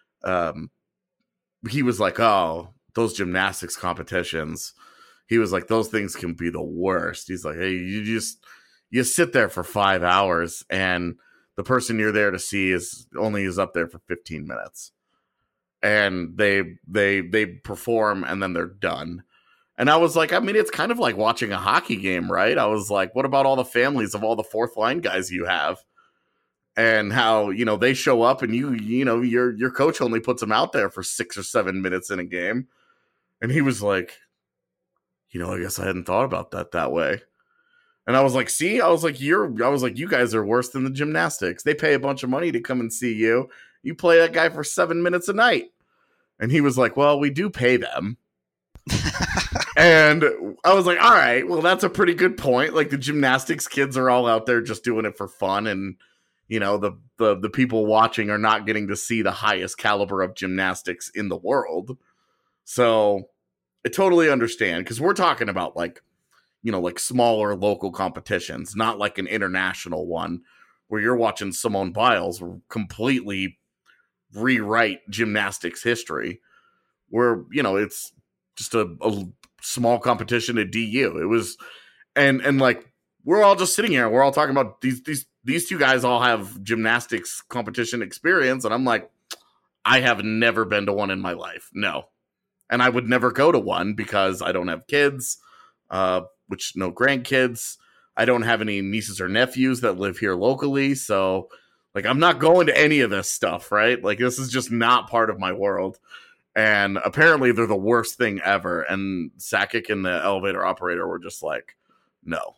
he was like, those gymnastics competitions, he was like, those things can be the worst. He's like, hey, you sit there for 5 hours, and the person you're there to see is up there for 15 minutes. and they perform and then they're done. And I was like, I mean, it's kind of like watching a hockey game, right? I was like, what about all the families of all the fourth line guys you have? And how, they show up and your coach only puts them out there for 6 or 7 minutes in a game. And he was like, I guess I hadn't thought about that way. And I was like, see, you guys are worse than the gymnastics. They pay a bunch of money to come and see you. You play that guy for 7 minutes a night. And he was like, well, we do pay them. And I was like, all right, well, that's a pretty good point. Like, the gymnastics kids are all out there just doing it for fun. And, the people watching are not getting to see the highest caliber of gymnastics in the world. So I totally understand, because we're talking about like smaller local competitions, not like an international one where you're watching Simone Biles completely rewrite gymnastics history, where, it's just a small competition at DU. It was, and like, we're all just sitting here, we're all talking about these two guys all have gymnastics competition experience. And I'm like, I have never been to one in my life. No. And I would never go to one because I don't have kids, which no grandkids. I don't have any nieces or nephews that live here locally. So like, I'm not going to any of this stuff, right? Like, this is just not part of my world. And apparently they're the worst thing ever. And Sakic and the elevator operator were just like, no.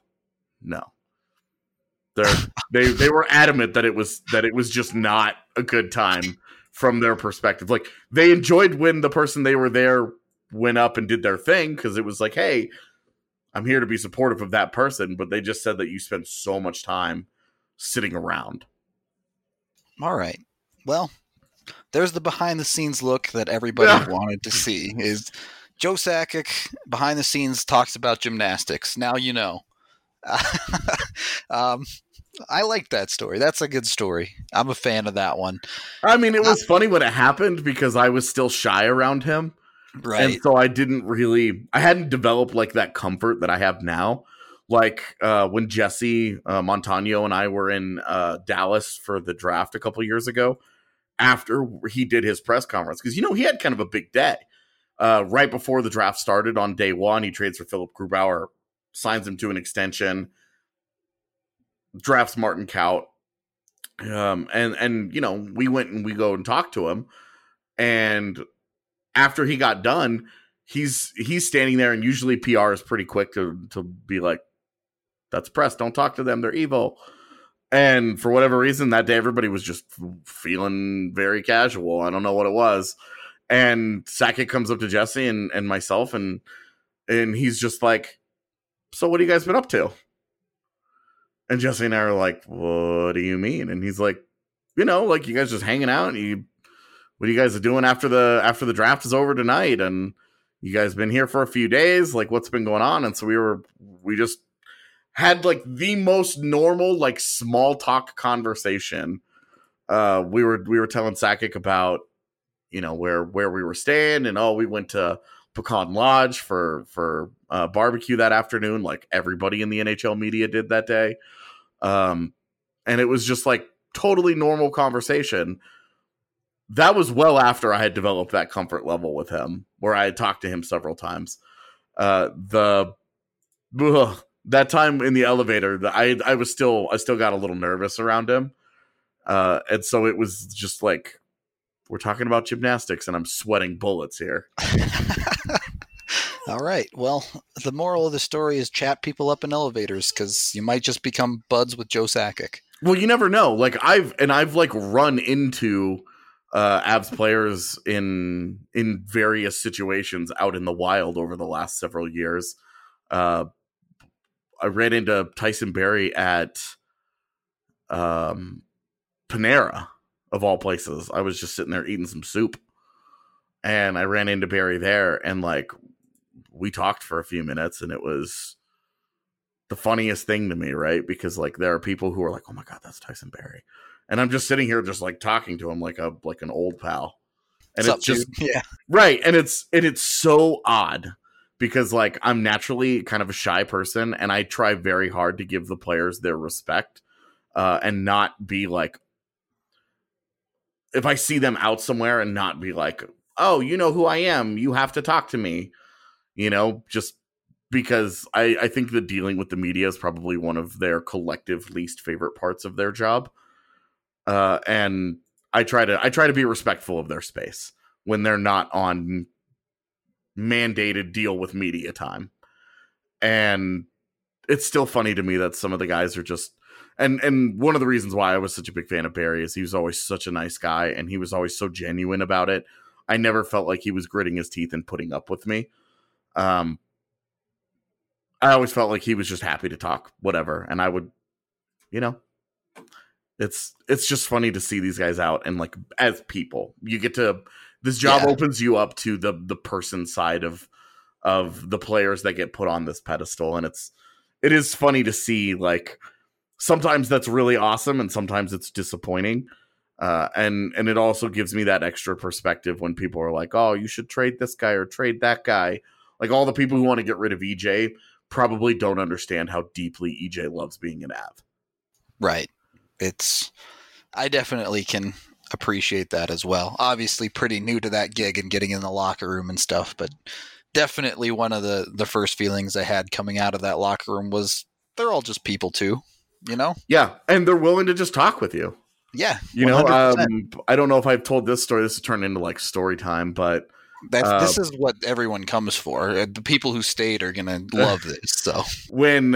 They were adamant that it was just not a good time from their perspective. Like, they enjoyed when the person they were there went up and did their thing, because it was like, hey, I'm here to be supportive of that person. But they just said that you spent so much time sitting around. All right. Well, there's the behind the scenes look that everybody wanted to see. Is Joe Sakic behind the scenes talks about gymnastics. Now you know. I like that story. That's a good story. I'm a fan of that one. I mean, it was funny when it happened because I was still shy around him. Right. And so I hadn't developed like that comfort that I have now. Like when Jesse Montano and I were in Dallas for the draft a couple years ago, after he did his press conference, because, he had kind of a big day. Right before the draft started on day one, he trades for Philip Grubauer, signs him to an extension, drafts Martin Kaut. And we went and we go and talked to him. And after he got done, he's standing there, and usually PR is pretty quick to be like, that's press, don't talk to them, they're evil. And for whatever reason, that day, everybody was just feeling very casual. I don't know what it was. And Sakic comes up to Jesse and myself, and he's just like, so what have you guys been up to? And Jesse and I are like, what do you mean? And he's like, like, you guys just hanging out, and what are you guys doing after the draft is over tonight? And you guys been here for a few days, like, what's been going on? And so we just had like the most normal, like, small talk conversation. We were telling Sakic about, where we were staying, and we went to Pecan Lodge for barbecue that afternoon, like everybody in the NHL media did that day. And it was just like totally normal conversation. That was well after I had developed that comfort level with him, where I had talked to him several times. That time in the elevator, I still got a little nervous around him. And so it was just like, we're talking about gymnastics and I'm sweating bullets here. All right. Well, the moral of the story is chat people up in elevators, because you might just become buds with Joe Sakic. Well, you never know. Like I've like run into Avs players in various situations out in the wild over the last several years. I ran into Tyson Barrie at Panera, of all places. I was just sitting there eating some soup, and I ran into Barrie there, and like we talked for a few minutes, and it was the funniest thing to me, right? Because like there are people who are like, "Oh my God, that's Tyson Barrie," and I'm just sitting here just like talking to him like an old pal, and What's it's up, just dude? Yeah, right, and it's so odd. Because like I'm naturally kind of a shy person, and I try very hard to give the players their respect, and not be like if I see them out somewhere and not be like, oh, you know who I am, you have to talk to me, just because I think that dealing with the media is probably one of their collective least favorite parts of their job. And I try to be respectful of their space when they're not on mandated deal with media time. And it's still funny to me that some of the guys are just, and one of the reasons why I was such a big fan of Barry is he was always such a nice guy and he was always so genuine about it. I never felt like he was gritting his teeth and putting up with me. I always felt like he was just happy to talk, whatever. And I would, it's just funny to see these guys out and like as people, you get to, this job opens you up to the person side of the players that get put on this pedestal. And it is funny to see, like, sometimes that's really awesome and sometimes it's disappointing. And it also gives me that extra perspective when people are like, oh, you should trade this guy or trade that guy. Like, all the people who want to get rid of EJ probably don't understand how deeply EJ loves being an Av. Right. I definitely can appreciate that as well. Obviously pretty new to that gig and getting in the locker room and stuff, but definitely one of the first feelings I had coming out of that locker room was they're all just people too, Yeah, and they're willing to just talk with you. Yeah, 100%. I don't know if I've told this story. This has turned into like story time, but this is what everyone comes for. The people who stayed are gonna love this. So when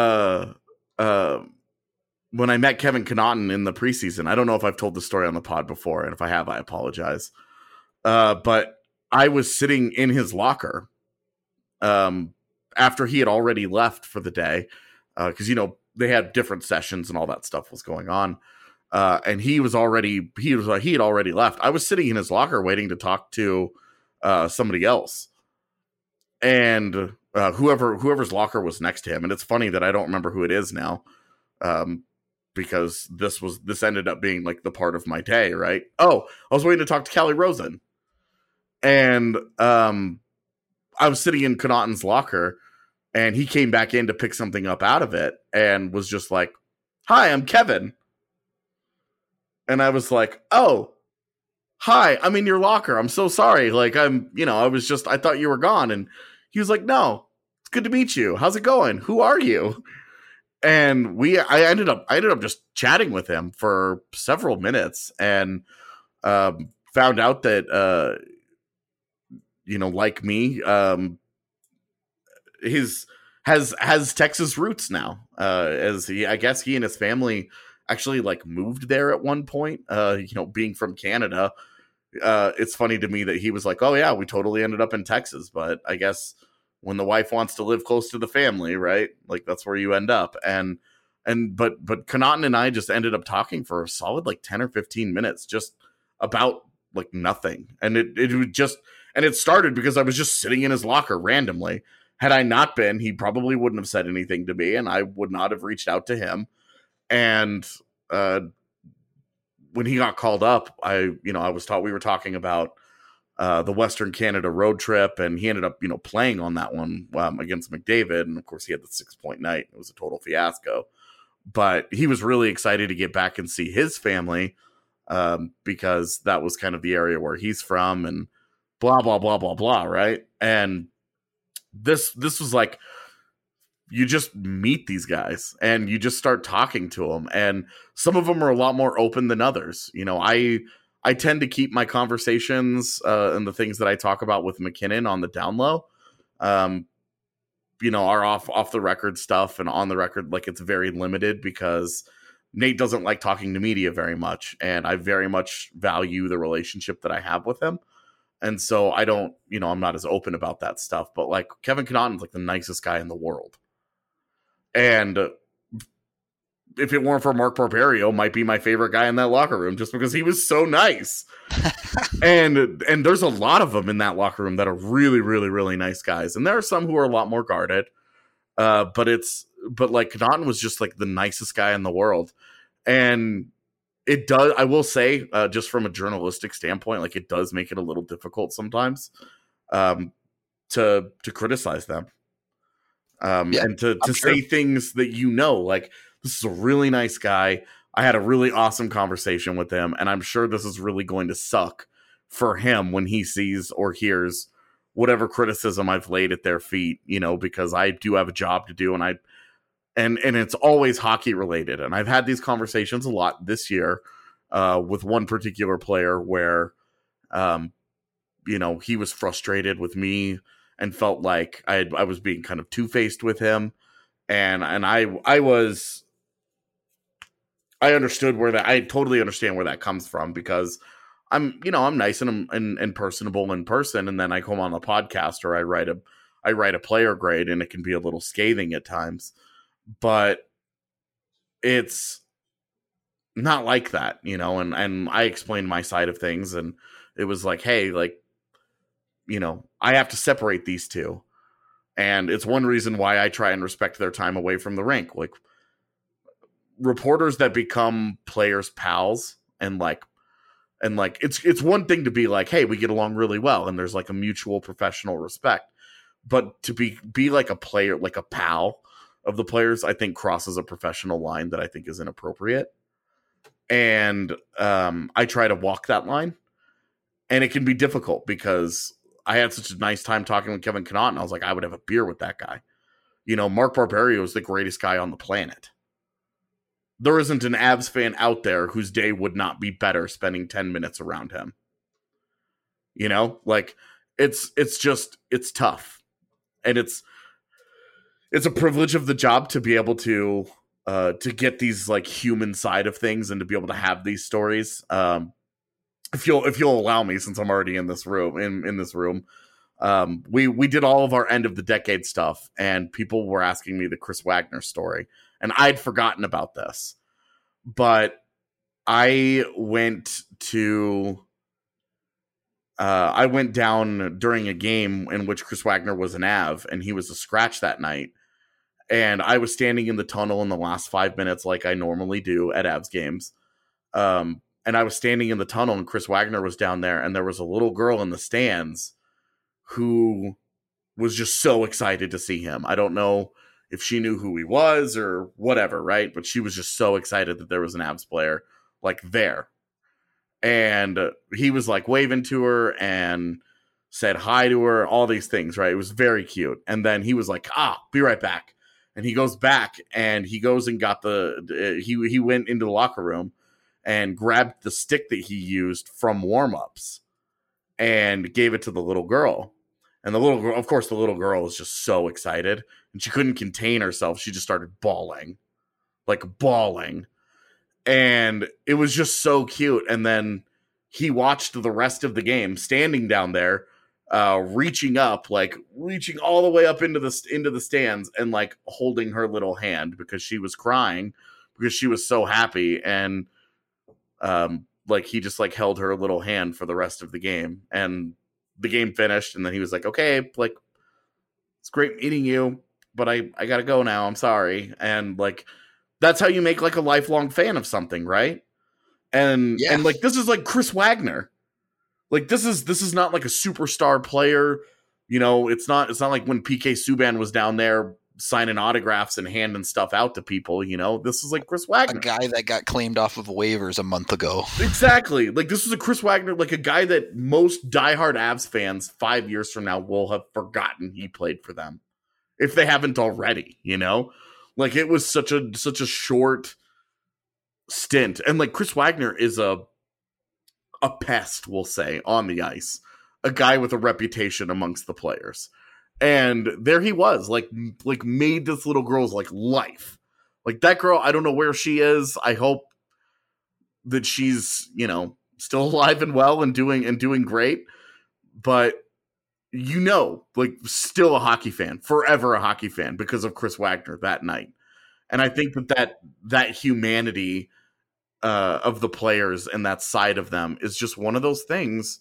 I met Kevin Connaughton in the preseason, I don't know if I've told the story on the pod before, and if I have, I apologize. But I was sitting in his locker after he had already left for the day, because they had different sessions and all that stuff was going on. And he had already left. I was sitting in his locker waiting to talk to somebody else, and whoever's locker was next to him. And it's funny that I don't remember who it is now, because this ended up being like the part of my day, right? Oh, I was waiting to talk to Callie Rosen, and I was sitting in Connaughton's locker, and he came back in to pick something up out of it, and was just like, "Hi, I'm Kevin." And I was like, "Oh, hi, I'm in your locker. I'm so sorry. Like, I thought you were gone." And he was like, "No, it's good to meet you. How's it going? Who are you?" And I ended up just chatting with him for several minutes, and found out that, like me, has Texas roots now. I guess he and his family actually like moved there at one point, being from Canada. It's funny to me that he was like, "Oh yeah, we totally ended up in Texas," but I guess when the wife wants to live close to the family, right? Like, that's where you end up. But Connaughton and I just ended up talking for a solid like 10 or 15 minutes, just about like nothing. And it started because I was just sitting in his locker randomly. Had I not been, he probably wouldn't have said anything to me, and I would not have reached out to him. And when he got called up, we were talking about the Western Canada road trip, and he ended up, playing on that one against McDavid. And of course he had the 6-point night. It was a total fiasco, but he was really excited to get back and see his family, because that was kind of the area where he's from, and blah, blah, blah, blah, blah. Right. And this was like, you just meet these guys and you just start talking to them. And some of them are a lot more open than others. I tend to keep my conversations and the things that I talk about with McKinnon on the down low, are off the record stuff, and on the record, like, it's very limited because Nate doesn't like talking to media very much. And I very much value the relationship that I have with him. And so I don't, I'm not as open about that stuff, but like Kevin Connaughton's like the nicest guy in the world. And if it weren't for Mark Barberio, might be my favorite guy in that locker room, just because he was so nice. and there's a lot of them in that locker room that are really, really, really nice guys. And there are some who are a lot more guarded. But like Connaughton was just like the nicest guy in the world. And it does, I will say, just from a journalistic standpoint, like, it does make it a little difficult sometimes to criticize them. And to say things that, like, this is a really nice guy. I had a really awesome conversation with him, and I'm sure this is really going to suck for him when he sees or hears whatever criticism I've laid at their feet, because I do have a job to do, and it's always hockey related. And I've had these conversations a lot this year with one particular player where, he was frustrated with me and felt like I was being kind of two-faced with him. And I understood I totally understand where that comes from, because I'm nice and personable in person. And then I come on the podcast or I write a player grade, and it can be a little scathing at times, but it's not like that, and I explained my side of things, and it was like, hey, like, I have to separate these two. And it's one reason why I try and respect their time away from the rink. Like, reporters that become players' pals and it's one thing to be like, hey, we get along really well, and there's like a mutual professional respect. But to be like a player, like a pal of the players, I think crosses a professional line that I think is inappropriate. And I try to walk that line, and it can be difficult because I had such a nice time talking with Kevin Connauton. I was like, I would have a beer with that guy. Mark Barberio is the greatest guy on the planet. There isn't an Avs fan out there whose day would not be better spending 10 minutes around him. It's tough. And it's a privilege of the job to be able to get these like human side of things and to be able to have these stories. If you'll allow me, since I'm already in this room, we did all of our end of the decade stuff, and people were asking me the Chris Wagner story, and I'd forgotten about this, but I went down during a game in which Chris Wagner was an Av, and he was a scratch that night, and I was standing in the tunnel in the last 5 minutes like I normally do at Avs games. And I was standing in the tunnel, and Chris Wagner was down there, and there was a little girl in the stands who was just so excited to see him. I don't know if she knew who he was or whatever, right? But she was just so excited that there was an Avs player like there. And he was like waving to her and said hi to her, all these things, right? It was very cute. And then he was like, be right back. And he goes back, and he goes and got he went into the locker room and grabbed the stick that he used from warm-ups and gave it to the little girl. And the little girl, of course, was just so excited, and she couldn't contain herself. She just started bawling. And it was just so cute. And then he watched the rest of the game standing down there, reaching all the way up into the stands and like holding her little hand because she was crying because she was so happy. And he just like held her little hand for the rest of the game, and the game finished. And then he was like, okay, like, it's great meeting you, but I gotta go now. I'm sorry. And like, that's how you make like a lifelong fan of something. Right. And like, this is like Chris Wagner. Like, this is not like a superstar player. It's not like when PK Subban was down there signing autographs and handing stuff out to people. This is like Chris Wagner, a guy that got claimed off of waivers a month ago. Exactly. Like, this is a Chris Wagner, like a guy that most diehard Avs fans 5 years from now will have forgotten he played for them, if they haven't already. Like, it was such a short stint, and like Chris Wagner is a pest, we'll say, on the ice, a guy with a reputation amongst the players. And there he was, like made this little girl's like life. Like, that girl, I don't know where she is. I hope that she's, still alive and well and doing great. But like, still a hockey fan, forever a hockey fan because of Chris Wagner that night. And I think that humanity of the players and that side of them is just one of those things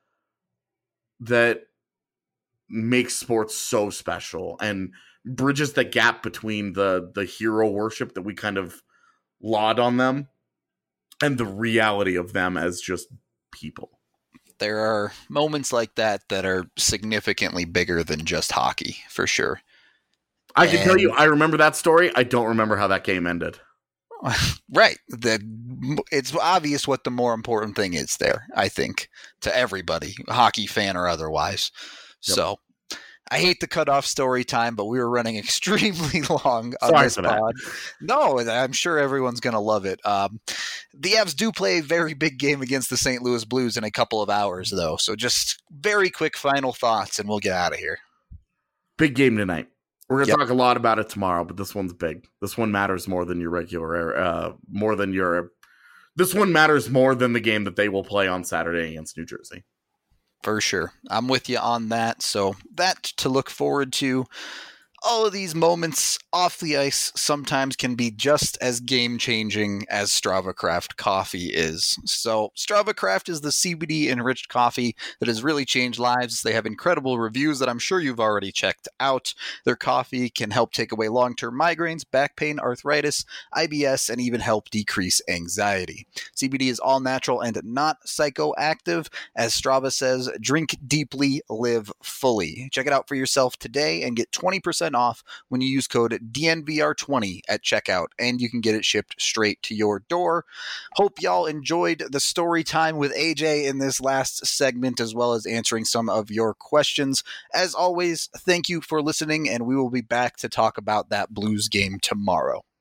that makes sports so special and bridges the gap between the hero worship that we kind of laud on them and the reality of them as just people. There are moments like that are significantly bigger than just hockey, for sure. I can tell you, I remember that story. I don't remember how that game ended. Right. It's obvious what the more important thing is there, I think, to everybody, hockey fan or otherwise. Yep. So I hate the cutoff story time, but we were running extremely long on this pod. No, I'm sure everyone's going to love it. The Avs do play a very big game against the St. Louis Blues in a couple of hours, though. So just very quick final thoughts, and we'll get out of here. Big game tonight. We're going to talk a lot about it tomorrow, but this one's big. This one matters more than your regular, this one matters more than the game that they will play on Saturday against New Jersey. For sure. I'm with you on that. So that to look forward to. All of these moments off the ice sometimes can be just as game-changing as Strava Craft coffee is. So Strava Craft is the CBD-enriched coffee that has really changed lives. They have incredible reviews that I'm sure you've already checked out. Their coffee can help take away long-term migraines, back pain, arthritis, IBS, and even help decrease anxiety. CBD is all-natural and not psychoactive. As Strava says, drink deeply, live fully. Check it out for yourself today and get 20% off when you use code DNVR20 at checkout, and you can get it shipped straight to your door. Hope y'all enjoyed the story time with AJ in this last segment, as well as answering some of your questions. As always, thank you for listening, and we will be back to talk about that Blues game tomorrow.